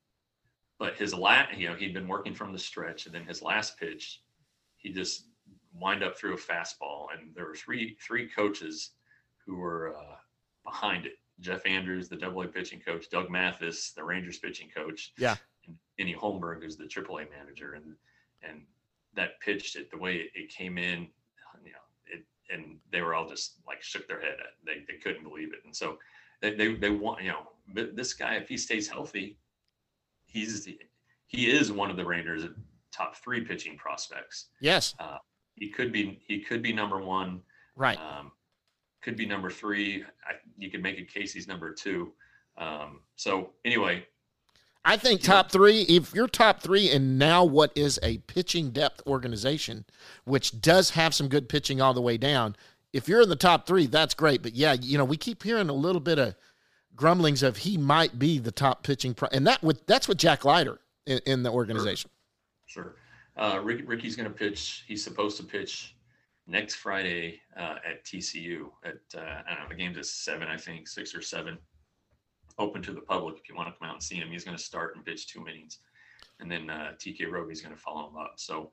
But his last, you know, he'd been working from the stretch, and then his last pitch, he just wind up through a fastball, and there were three three coaches who were uh, behind it. Jeff Andrews, the Double A pitching coach, Doug Mathis, the Rangers pitching coach, Yeah. and Kenny Holmberg, who's the Triple A manager, and and that pitched it the way it, it came in, you know, it and they were all just like shook their head at. They they couldn't believe it, and so they they they want you know this guy, if he stays healthy. He's he is one of the Rangers' top three pitching prospects. Yes. Uh, he could be he could be number one. Right. Um, could be number three. I, you could make a case he's number two. Um, so anyway, I think top three, if you're top three and now what is a pitching depth organization, which does have some good pitching all the way down, if you're in the top three, that's great. But yeah, you know, we keep hearing a little bit of grumblings of he might be the top pitching. Pro- and that with that's with Jack Leiter in, in the organization. Sure. Uh, Rick, Ricky's going to pitch. He's supposed to pitch next Friday uh, at T C U at, uh, I don't know, the game's at seven, I think, six or seven. Open to the public if you want to come out and see him. He's going to start and pitch two innings. And then uh, T K Roby's going to follow him up. So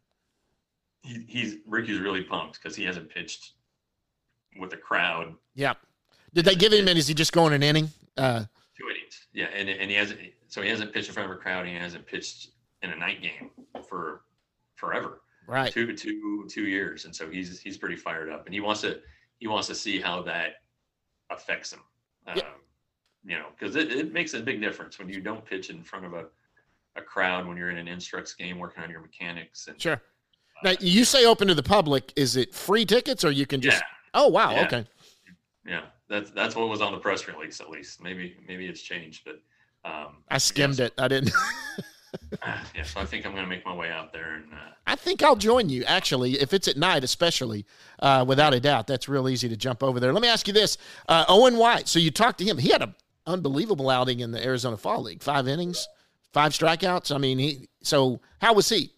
he, he's Ricky's really pumped because he hasn't pitched with a crowd. Yeah. Did they give him, and is he just going an inning? Uh, Two innings. Yeah, and and he hasn't. So he hasn't pitched in front of a crowd. He hasn't pitched in a night game for forever. right. Two two two years, and so he's he's pretty fired up, and he wants to he wants to see how that affects him. Um, Yeah. You know, because it, it makes a big difference when you don't pitch in front of a a crowd when you're in an instructs game working on your mechanics. And Sure. Now, you say open to the public. Is it free tickets or you can just? Yeah. Oh, wow. Yeah. Okay. yeah, that's that's what was on the press release at least. Maybe maybe it's changed, but um, I skimmed yeah, it. I didn't. so, yeah, so I think I'm going to make my way out there and. Uh, I think I'll join you, actually, if it's at night, especially, uh, without a doubt. That's real easy to jump over there. Let me ask you this. Uh, Owen White, so you talked to him. He had a unbelievable outing in the Arizona Fall League. Five innings, five strikeouts. I mean, he. So how was he?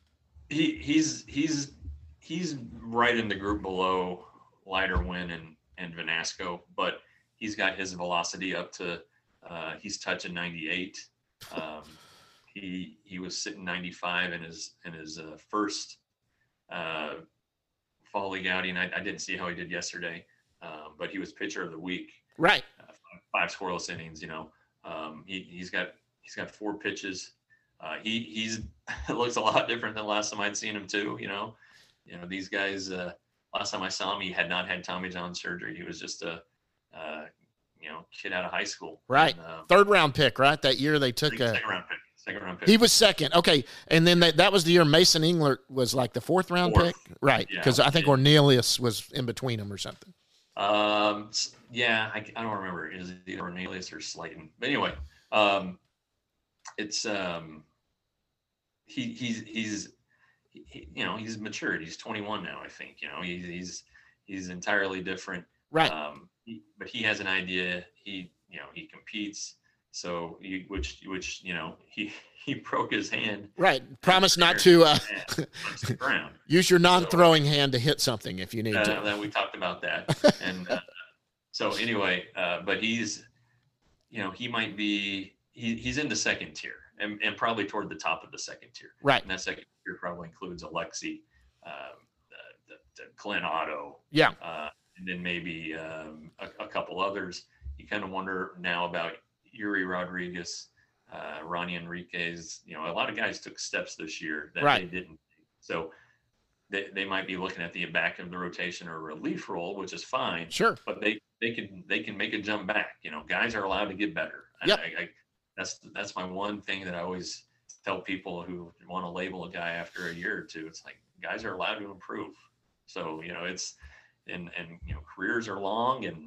He he's he's he's right in the group below Leiterman and and Vanasco, but he's got his velocity up to. Uh, he's touching ninety-eight. Um, he he was sitting ninety-five in his in his uh, first uh, fall league outing. I, I didn't see how he did yesterday, um, but he was pitcher of the week. Right. Uh, five, five scoreless innings. You know, um, he he's got he's got four pitches. Uh, he he's looks a lot different than last time I'd seen him too. You know, you know these guys. Uh, last time I saw him, he had not had Tommy John surgery. He was just a uh, you know kid out of high school. Right. And, uh, Third round pick. Right. That year they took a second round pick. Second round pick. He was second. Okay. And then that, that was the year Mason Englert was like the fourth round Fourth. pick. Right. Yeah. Because I think Yeah. Ornelius was in between them or something. Um, s- yeah, I, I don't remember. Is it either Cornelius or Slayton? But anyway, um, it's um, he he's he's he, you know he's matured. He's twenty-one now, I think. You know, he's he's he's entirely different. Right. Um, he, but he has an idea. He you know he competes. So he, which which you know he he broke his hand. Right. Promise not to uh, and punched the ground. use your non-throwing hand to hit something if you need Uh, to. then we talked about that, and uh, so anyway, uh, but he's, you know, he might be he, he's in the second tier, and, and probably toward the top of the second tier. Right. And that second tier probably includes Alexi, um, the, the, the Glenn Otto, Yeah. uh, and then maybe um, a, a couple others. You kind of wonder now about Yuri Rodriguez, uh, Ronnie Enriquez. You know, a lot of guys took steps this year that Right. they didn't. So. They, they might be looking at the back of the rotation or relief role, which is fine. Sure. But they they can they can make a jump back. You know, guys are allowed to get better. And Yep. I, I, that's that's my one thing that I always tell people who want to label a guy after a year or two. It's like guys are allowed to improve. So you know it's and and you know careers are long and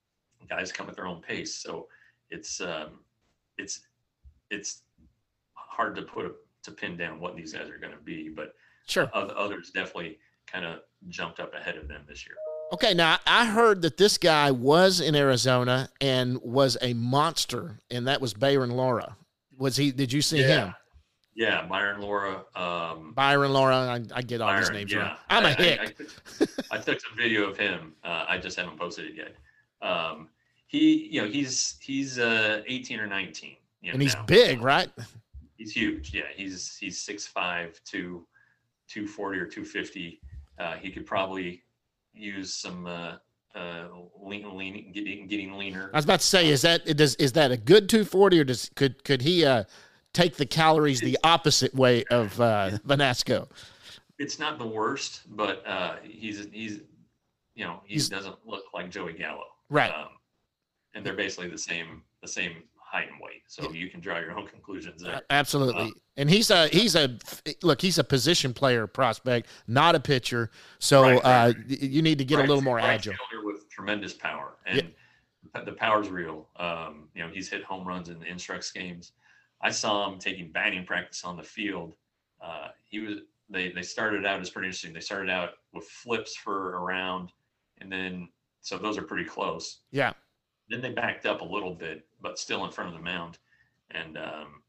guys come at their own pace. So it's um it's it's hard to put a, to pin down what these guys are going to be, but. Sure. Oth- Others definitely kind of jumped up ahead of them this year. Okay, now I heard that this guy was in Arizona and was a monster, and that was Byron Laura. Was he? Did you see him? Yeah, Byron Laura. Um, Byron Laura. I, I get all his Byron, names yeah. wrong. I'm a I- I- hick. I, took, I took some video of him. Uh, I just haven't posted it yet. Um, he, you know, he's he's uh, eighteen or nineteen. You know, and he's now. big, right? He's huge. Yeah, he's he's six five to two forty or two fifty. Uh, he could probably use some uh, uh, lean, lean, getting getting leaner. I was about to say, is that does is that a good two forty, or does could could he uh, take the calories the opposite way of uh, Vanasco? It's not the worst, but uh, he's he's you know he He's- doesn't look like Joey Gallo, Right. Um, and they're basically the same the same height and weight, so you can draw your own conclusions there. Absolutely. Uh, And he's a he's a look. He's a position player prospect, not a pitcher. So Right, right, uh, right. y- you need to get Right- a little more right agile. fielder with tremendous power, and the power's real. Um, you know, he's hit home runs in the Instructs games. I saw him taking batting practice on the field. Uh, he was they they started out as pretty interesting. They started out with flips for a round, and then so those are pretty close. Yeah. Then they backed up a little bit, but still in front of the mound, and um,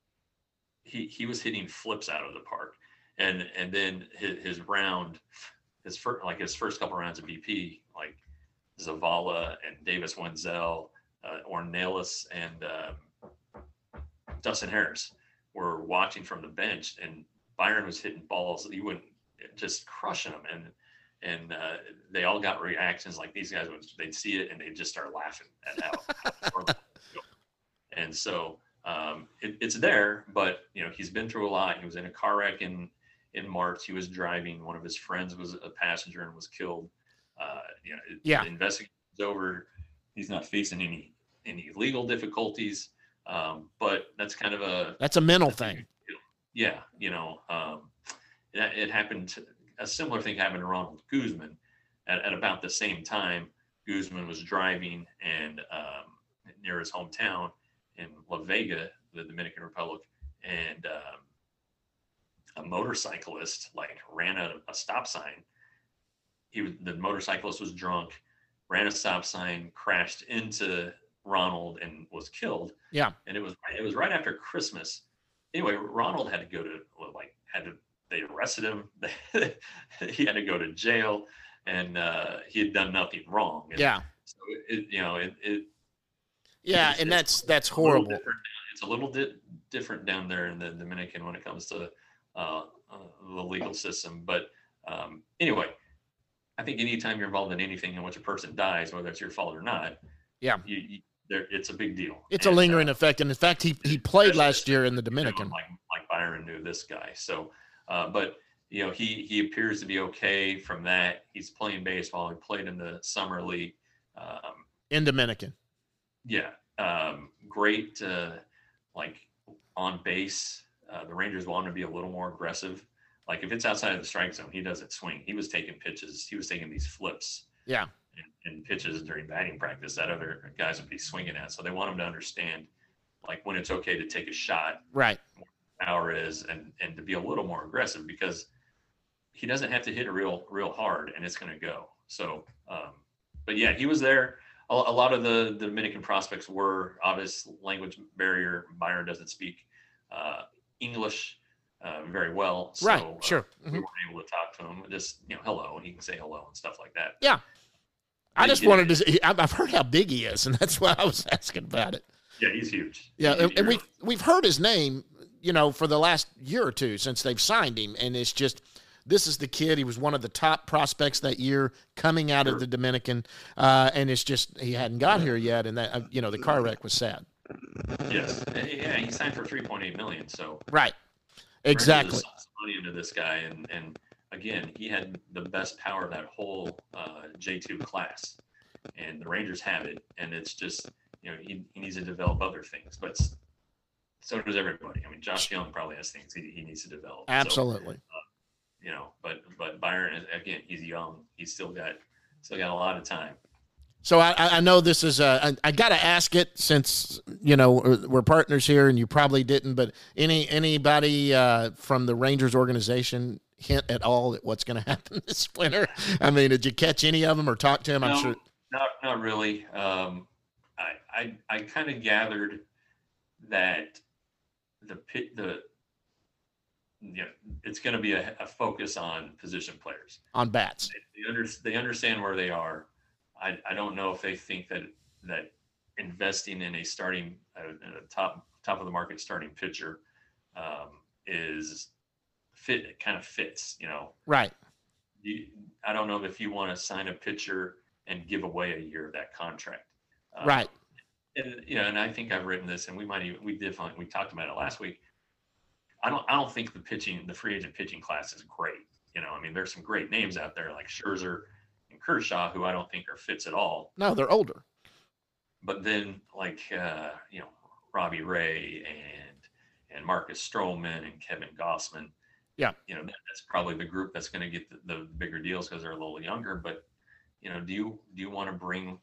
he he was hitting flips out of the park, and and then his, his round, his first like his first couple rounds of B P, like Zavala and Davis Wenzel, uh, Ornelas and um, Dustin Harris were watching from the bench, and Byron was hitting balls that he wouldn't just crushing them, and and uh, they all got reactions like these guys would they'd see it and they'd just start laughing at how, how far they go. And so um, it, it's there, but you know he's been through a lot. He was in a car wreck in in March. He was driving. One of his friends was a passenger and was killed. Uh, you know, it- Yeah. the investigation's over. He's not facing any any legal difficulties, um, but that's kind of a That's a mental thing. yeah, you know, um, it, it happened. To, a similar thing happened to Ronald Guzman at, at about the same time. Guzman was driving and um, near his hometown in La Vega, the Dominican Republic, and um, a motorcyclist like ran a, a stop sign. He was the motorcyclist was drunk, ran a stop sign, crashed into Ronald and was killed. Yeah. And it was it was right after Christmas. Anyway, Ronald had to go to like had to they arrested him. He had to go to jail, and uh, he had done nothing wrong. And yeah. So it, you know it. it yeah, it's, and it's that's that's a little horrible. different- It's a little di- different down there in the Dominican when it comes to uh, uh, the legal system. But um, anyway, I think anytime you're involved in anything in which a person dies, whether it's your fault or not, Yeah. you, you, there, it's a big deal. It's a And, lingering uh, effect, and in fact, he he played especially last year in the you know, Dominican. like like Byron knew this guy. So, uh, but you know, he he appears to be okay from that. He's playing baseball. He played in the summer league. Um, In Dominican. yeah, um, great. Uh, like on base, uh, the Rangers want him to be a little more aggressive. Like if it's outside of the strike zone, he doesn't swing. He was taking pitches. He was taking these flips. Yeah. And, and pitches during batting practice that other guys would be swinging at. So they want him to understand, like when it's okay to take a shot, Right. power is, and and to be a little more aggressive, because he doesn't have to hit it real real hard and it's going to go. So, um, but yeah, he was there. A, a lot of the, the Dominican prospects were obvious language barrier. Byron doesn't speak uh, English uh, very well. So, Right, uh, sure. we Mhm. weren't able to talk to him. Just, you know, hello, and he can say hello and stuff like that. Yeah. I He just did- wanted to see, I've I've heard how big he is, and that's why I was asking about it. Yeah, he's huge. Yeah, He's and, and huge. we've we've heard his name, you know, for the last year or two since they've signed him, and it's just this is the kid. He was one of the top prospects that year coming out Sure. of the Dominican, uh, and it's just he hadn't got here yet, and that uh, you know the car wreck was sad. Yes, yeah, he signed for three point eight million. So Right, Rangers exactly. has sunk some money into this guy, and and again, he had the best power of that whole uh, J two class, and the Rangers have it, and it's just, you know, he, he needs to develop other things, but s- so does everybody. I mean, Josh Young probably has things he, he needs to develop. So, Absolutely. you know, but but Byron is, again, he's young. He's still got still got a lot of time. So I, I know this is a, I, I got to ask it since, you know, we're, we're partners here and you probably didn't, but any anybody uh, from the Rangers organization hint at all at what's going to happen this winter? I mean, did you catch any of them or talk to them? I'm No, sure. Not not really. Um, I I, I kind of gathered that the pit the you know, it's going to be a, a focus on position players. On bats. They, they, under, they understand where they are. I, I don't know if they think that that investing in a starting uh, in a top top of the market starting pitcher um, is fit. It kind of fits, you know. Right. You, I don't know if you want to sign a pitcher and give away a year of that contract. Um, Right. And you know, and I think I've written this, and we might even we did find, we talked about it last week. I don't I don't think the pitching the free agent pitching class is great. You know, I mean, there's some great names out there like Scherzer and Kershaw, who I don't think are fits at all. No, they're older. But then like uh, you know, Robbie Ray and and Marcus Stroman and Kevin Gossman. Yeah. You know, that, that's probably the group that's going to get the, the bigger deals because they're a little younger. But you know, do you do you want to bring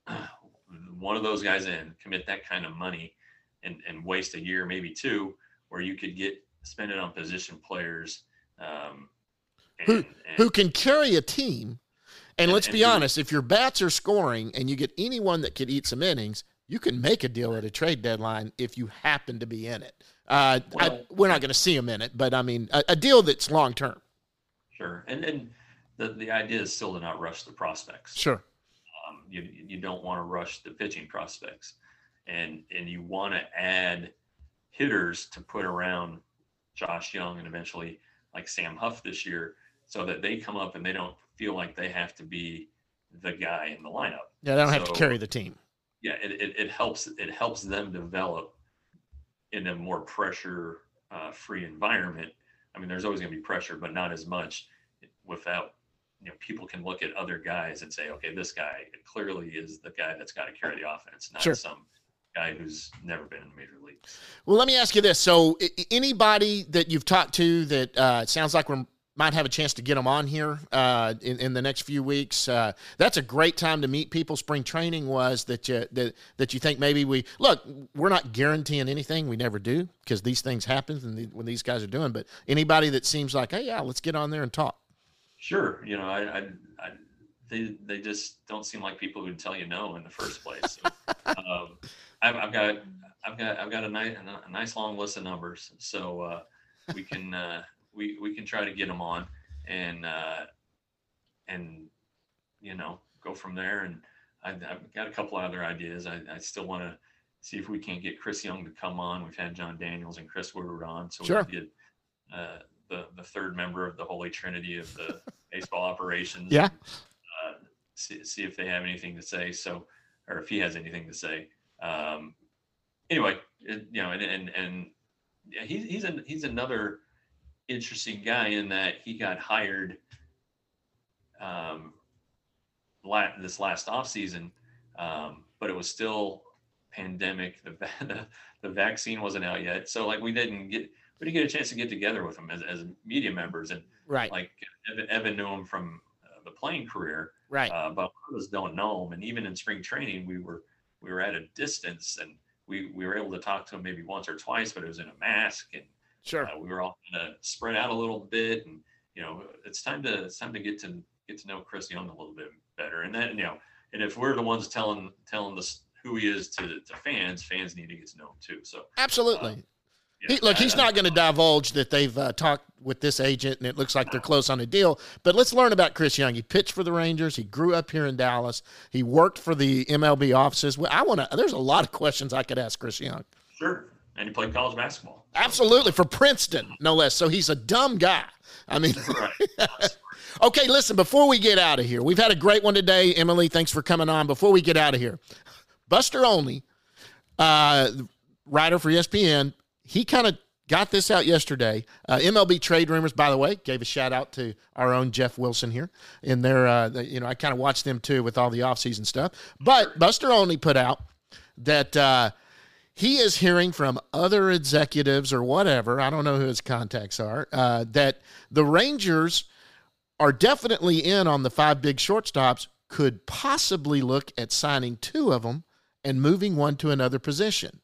one of those guys in, commit that kind of money, and and waste a year, maybe two, where you could get spend it on position players um, and, Who and who can carry a team? And, And- let's and be who- honest, if your bats are scoring and you get anyone that could eat some innings, you can make a deal at a trade deadline if you happen to be in it. Uh, I, Well- we're not going to see them in it, but I mean, a, a deal that's long term. sure, and and the the idea is still to not rush the prospects. Sure. Um, you you don't want to rush the pitching prospects, and and you want to add hitters to put around Josh Young and eventually like Sam Huff this year, so that they come up and they don't feel like they have to be the guy in the lineup. Yeah, they don't have to So- carry the team. Yeah, it, it, it helps it helps them develop in a more pressure uh, free environment. I mean, there's always going to be pressure, but not as much without, you know, people can look at other guys and say, okay, this guy clearly is the guy that's got to carry the offense, not Sure. some guy who's never been in the major leagues. Well, let me ask you this. So, I- I- anybody that you've talked to that uh, it sounds like we might have a chance to get them on here uh, in, in the next few weeks, uh, that's a great time to meet people. Spring training was that you, that, that you think maybe we – look, we're not guaranteeing anything. We never do because these things happen and the, when these guys are doing. But anybody that seems like, hey, yeah, let's get on there and talk. Sure. You know, I, I, I they they just don't seem like people who'd tell you no in the first place. So, um, I've, I've got I've got I've got a nice a nice long list of numbers, so uh, we can uh, we we can try to get them on and uh, and you know go from there. And I've, I've got a couple of other ideas. I, I still want to see if we can't get Chris Young to come on. We've had John Daniels and Chris Woodward on, so Sure. we can get uh, the the third member of the Holy Trinity of the baseball operations. Yeah. And, uh, see, see if they have anything to say. So, or if he has anything to say. Um, anyway, it, you know, and and and yeah, he's he's an, he's another interesting guy in that he got hired um, la- this last offseason, um, but it was still pandemic. The, the the vaccine wasn't out yet, so like we didn't get we didn't get a chance to get together with him as, as media members. And Right. like Evan, Evan knew him from uh, the playing career, Right. uh, but others don't know him. And even in spring training, we were we were at a distance, and we we were able to talk to him maybe once or twice, but it was in a mask, and Sure. uh, we were all kind of spread out a little bit. And you know, it's time to it's time to get to get to know Chris Young a little bit better. And then you know, and if we're the ones telling telling this who he is to to fans, fans need to get to know him too. So Absolutely. uh, yeah, He, look, he's I- not going to divulge that they've uh, talked with this agent and it looks like they're close on a deal. But let's learn about Chris Young. He pitched for the Rangers. He grew up here in Dallas. He worked for the M L B offices. Well, I want to. There's a lot of questions I could ask Chris Young. Sure, and he played college basketball. Absolutely, for Princeton, no less. So he's a dumb guy. I mean, Right. okay, listen, before we get out of here, we've had a great one today. Emily, thanks for coming on. Before we get out of here, Buster Olney, uh, writer for E S P N, he kind of got this out yesterday. Uh, M L B trade rumors, by the way, gave a shout out to our own Jeff Wilson here. In their, uh, the, you know, I kind of watched them too with all the offseason stuff. But Buster Olney put out that uh, he is hearing from other executives or whatever, I don't know who his contacts are, uh, that the Rangers are definitely in on the five big shortstops, could possibly look at signing two of them and moving one to another position.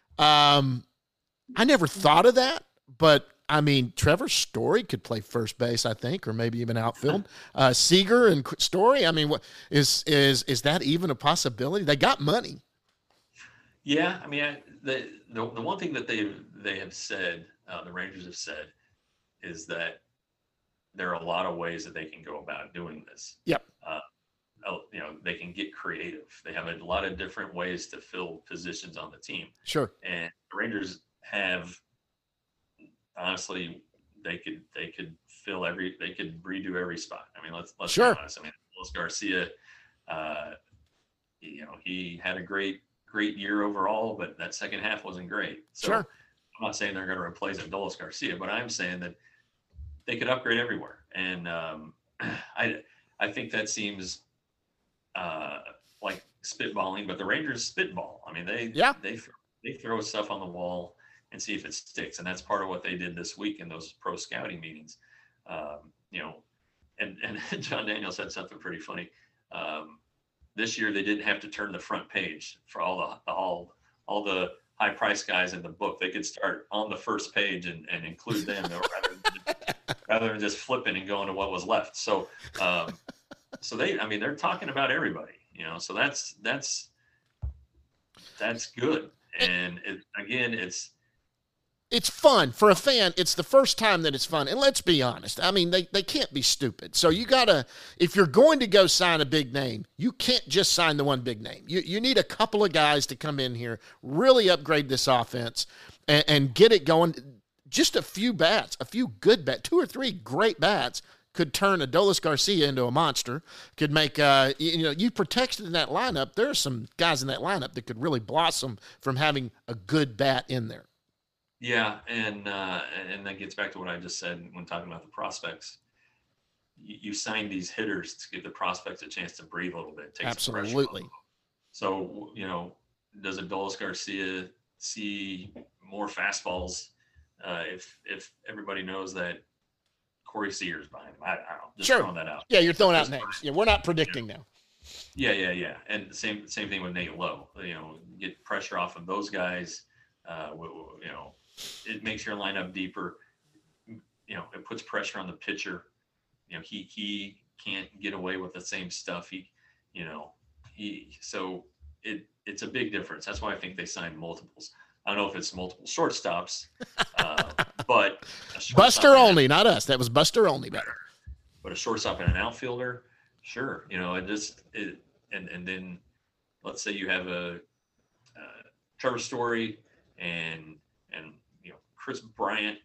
Um, I never thought of that, but I mean, Trevor Story could play first base, I think, or maybe even outfield. Uh, Seager and Story. I mean, what is is is that even a possibility? They got money. Yeah, I mean, I, the, the the one thing that they they have said, uh, the Rangers have said, is that there are a lot of ways that they can go about doing this. Yep. Uh, you know, they can get creative. They have a lot of different ways to fill positions on the team. Sure. And the Rangers have, honestly, they could they could fill every they could redo every spot. I mean, let's let's Sure. be honest. I mean, Luis Garcia, uh, you know, he had a great great year overall, but that second half wasn't great. So Sure. I'm not saying they're going to replace Adolis Garcia, but I'm saying that they could upgrade everywhere. And um, I I think that seems uh, like spitballing, but the Rangers spitball. I mean, they Yeah. they they throw stuff on the wall and see if it sticks, and that's part of what they did this week in those pro scouting meetings. Um, you know, and and John Daniels said something pretty funny. Um, this year they didn't have to turn the front page for all the, the all all the high price guys in the book. They could start on the first page and, and include them rather than, rather than just flipping and going to what was left. So, um, so they, I mean, they're talking about everybody, you know, so that's, that's, that's good. And it, again, it's, It's fun for a fan. It's the first time that it's fun. And let's be honest. I mean, they, they can't be stupid. So you got to, if you're going to go sign a big name, you can't just sign the one big name. You you need a couple of guys to come in here, really upgrade this offense and, and get it going. Just a few bats, a few good bats, two or three great bats could turn Adolis Garcia into a monster, could make, uh, you, you know, you protected in that lineup. There are some guys in that lineup that could really blossom from having a good bat in there. yeah. And, uh, and that gets back to what I just said when talking about the prospects. You, you sign these hitters to give the prospects a chance to breathe a little bit. Take some pressure off Absolutely. them. So, you know, does Adolis Garcia see more fastballs uh, if if everybody knows that Corey Seager's behind him? I, I don't know. Just Sure. throwing that out. Yeah, you're throwing out Just- names. Yeah, we're not predicting now. Yeah, yeah, yeah. And the same same thing with Nate Lowe. You know, get pressure off of those guys. Uh, w- w- you know, it makes your lineup deeper. You know, it puts pressure on the pitcher. You know, he he can't get away with the same stuff. He, you know, he, so it, it's a big difference. That's why I think they signed multiples. I don't know if it's multiple shortstops, uh, but Buster Olney, not us. That was Buster Olney better. But a shortstop and an outfielder, sure. You know, it just, it, and, and then let's say you have a, uh, Trevor Story and, and, you know, Chris Bryant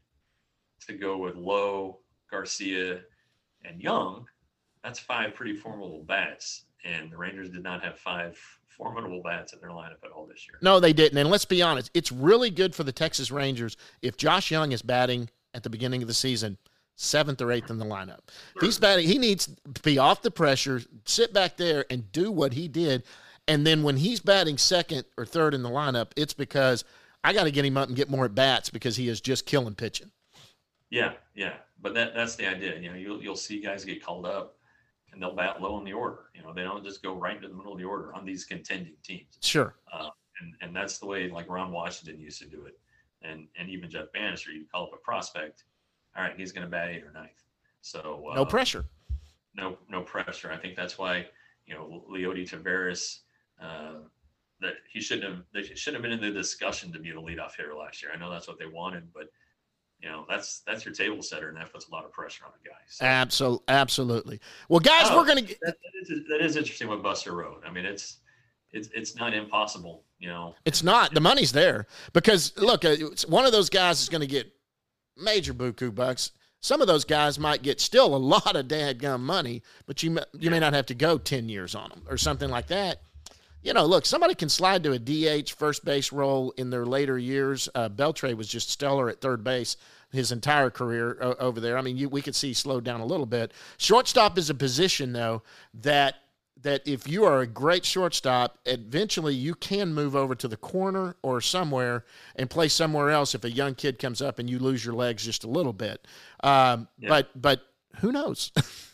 to go with Lowe, Garcia, and Young. That's five pretty formidable bats. And the Rangers did not have five formidable bats in their lineup at all this year. No, they didn't. And let's be honest, it's really good for the Texas Rangers if Josh Young is batting at the beginning of the season, seventh or eighth in the lineup. If he's batting, he needs to be off the pressure, sit back there and do what he did. And then when he's batting second or third in the lineup, it's because I got to get him up and get more at bats because he is just killing pitching. Yeah, yeah. But that that's the idea. You know, you'll you'll see guys get called up and they'll bat low in the order. You know, they don't just go right into the middle of the order on these contending teams. Sure. Uh, and, and that's the way like Ron Washington used to do it. And and even Jeff Bannister, you call up a prospect. All right, he's going to bat eighth or ninth. So uh, no pressure. No no pressure. I think that's why, you know, Leody Taveras, uh, that he shouldn't have they shouldn't have been in the discussion to be the leadoff hitter last year. I know that's what they wanted, but you know, that's that's your table setter, and that puts a lot of pressure on the guy. So, Absolutely, absolutely. Well, guys, oh, we're gonna get that, that, is, that is interesting what Buster wrote. I mean, it's it's it's not impossible. You know, it's not. The money's there because look, uh, one of those guys is going to get major buku bucks. Some of those guys might get still a lot of dadgum money, but you you may not have to go ten years on them or something like that. You know, look, somebody can slide to a D H first base role in their later years. Uh, Beltre was just stellar at third base his entire career uh, over there. I mean, you, we could see he slowed down a little bit. Shortstop is a position, though, that that if you are a great shortstop, eventually you can move over to the corner or somewhere and play somewhere else if a young kid comes up and you lose your legs just a little bit. Um, Yeah. But but who knows?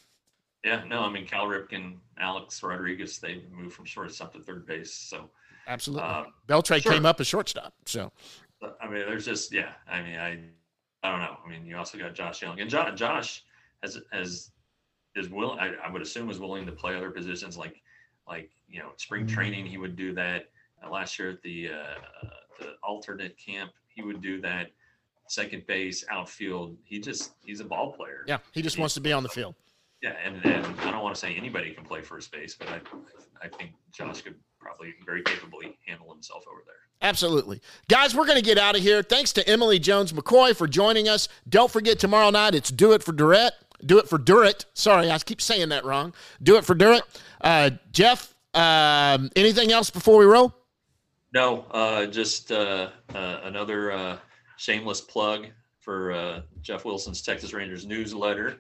yeah, no, I mean Cal Ripken, Alex Rodriguez, they moved from shortstop to third base. So Absolutely. Um, Beltre sure. came up as shortstop, so. I mean, there's just yeah. I mean, I I don't know. I mean, you also got Josh Young, and Josh, Josh has has is willing. I, I would assume is willing to play other positions like like you know spring training. He would do that uh, last year at the uh, the alternate camp. He would do that. Second base, outfield. He just he's a ball player. Yeah, he just wants to be on the field. Yeah, and, and I don't want to say anybody can play first base, but I I think Josh could probably very capably handle himself over there. Absolutely. Guys, we're going to get out of here. Thanks to Emily Jones McCoy for joining us. Don't forget tomorrow night, it's Do It for Durrett. Do It for Durrett. Sorry, I keep saying that wrong. Do It for Durrett. Uh, Jeff, um, anything else before we roll? No, uh, just uh, uh, another uh, shameless plug for uh, Jeff Wilson's Texas Rangers newsletter.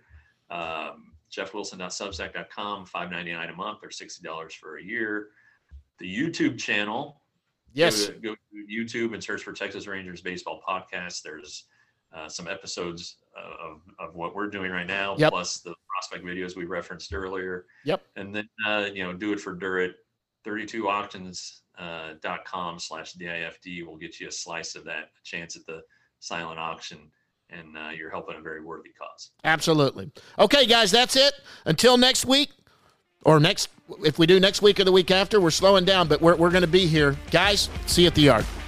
Um, jeff wilson dot substack dot com, five ninety-nine a month or sixty dollars for a year. The YouTube channel. Yes. Go to, go to YouTube and search for Texas Rangers Baseball Podcast. There's uh, some episodes uh, of, of what we're doing right now, Yep. plus the prospect videos we referenced earlier. Yep. And then, uh, you know, Do It for Durrett, thirty-two auctions dot com slash D I F D will get you a slice of that, a chance at the silent auction, and uh, you're helping a very worthy cause. Absolutely. Okay, guys, that's it. Until next week, or next, if we do next week or the week after, we're slowing down, but we're, we're going to be here. Guys, see you at the yard.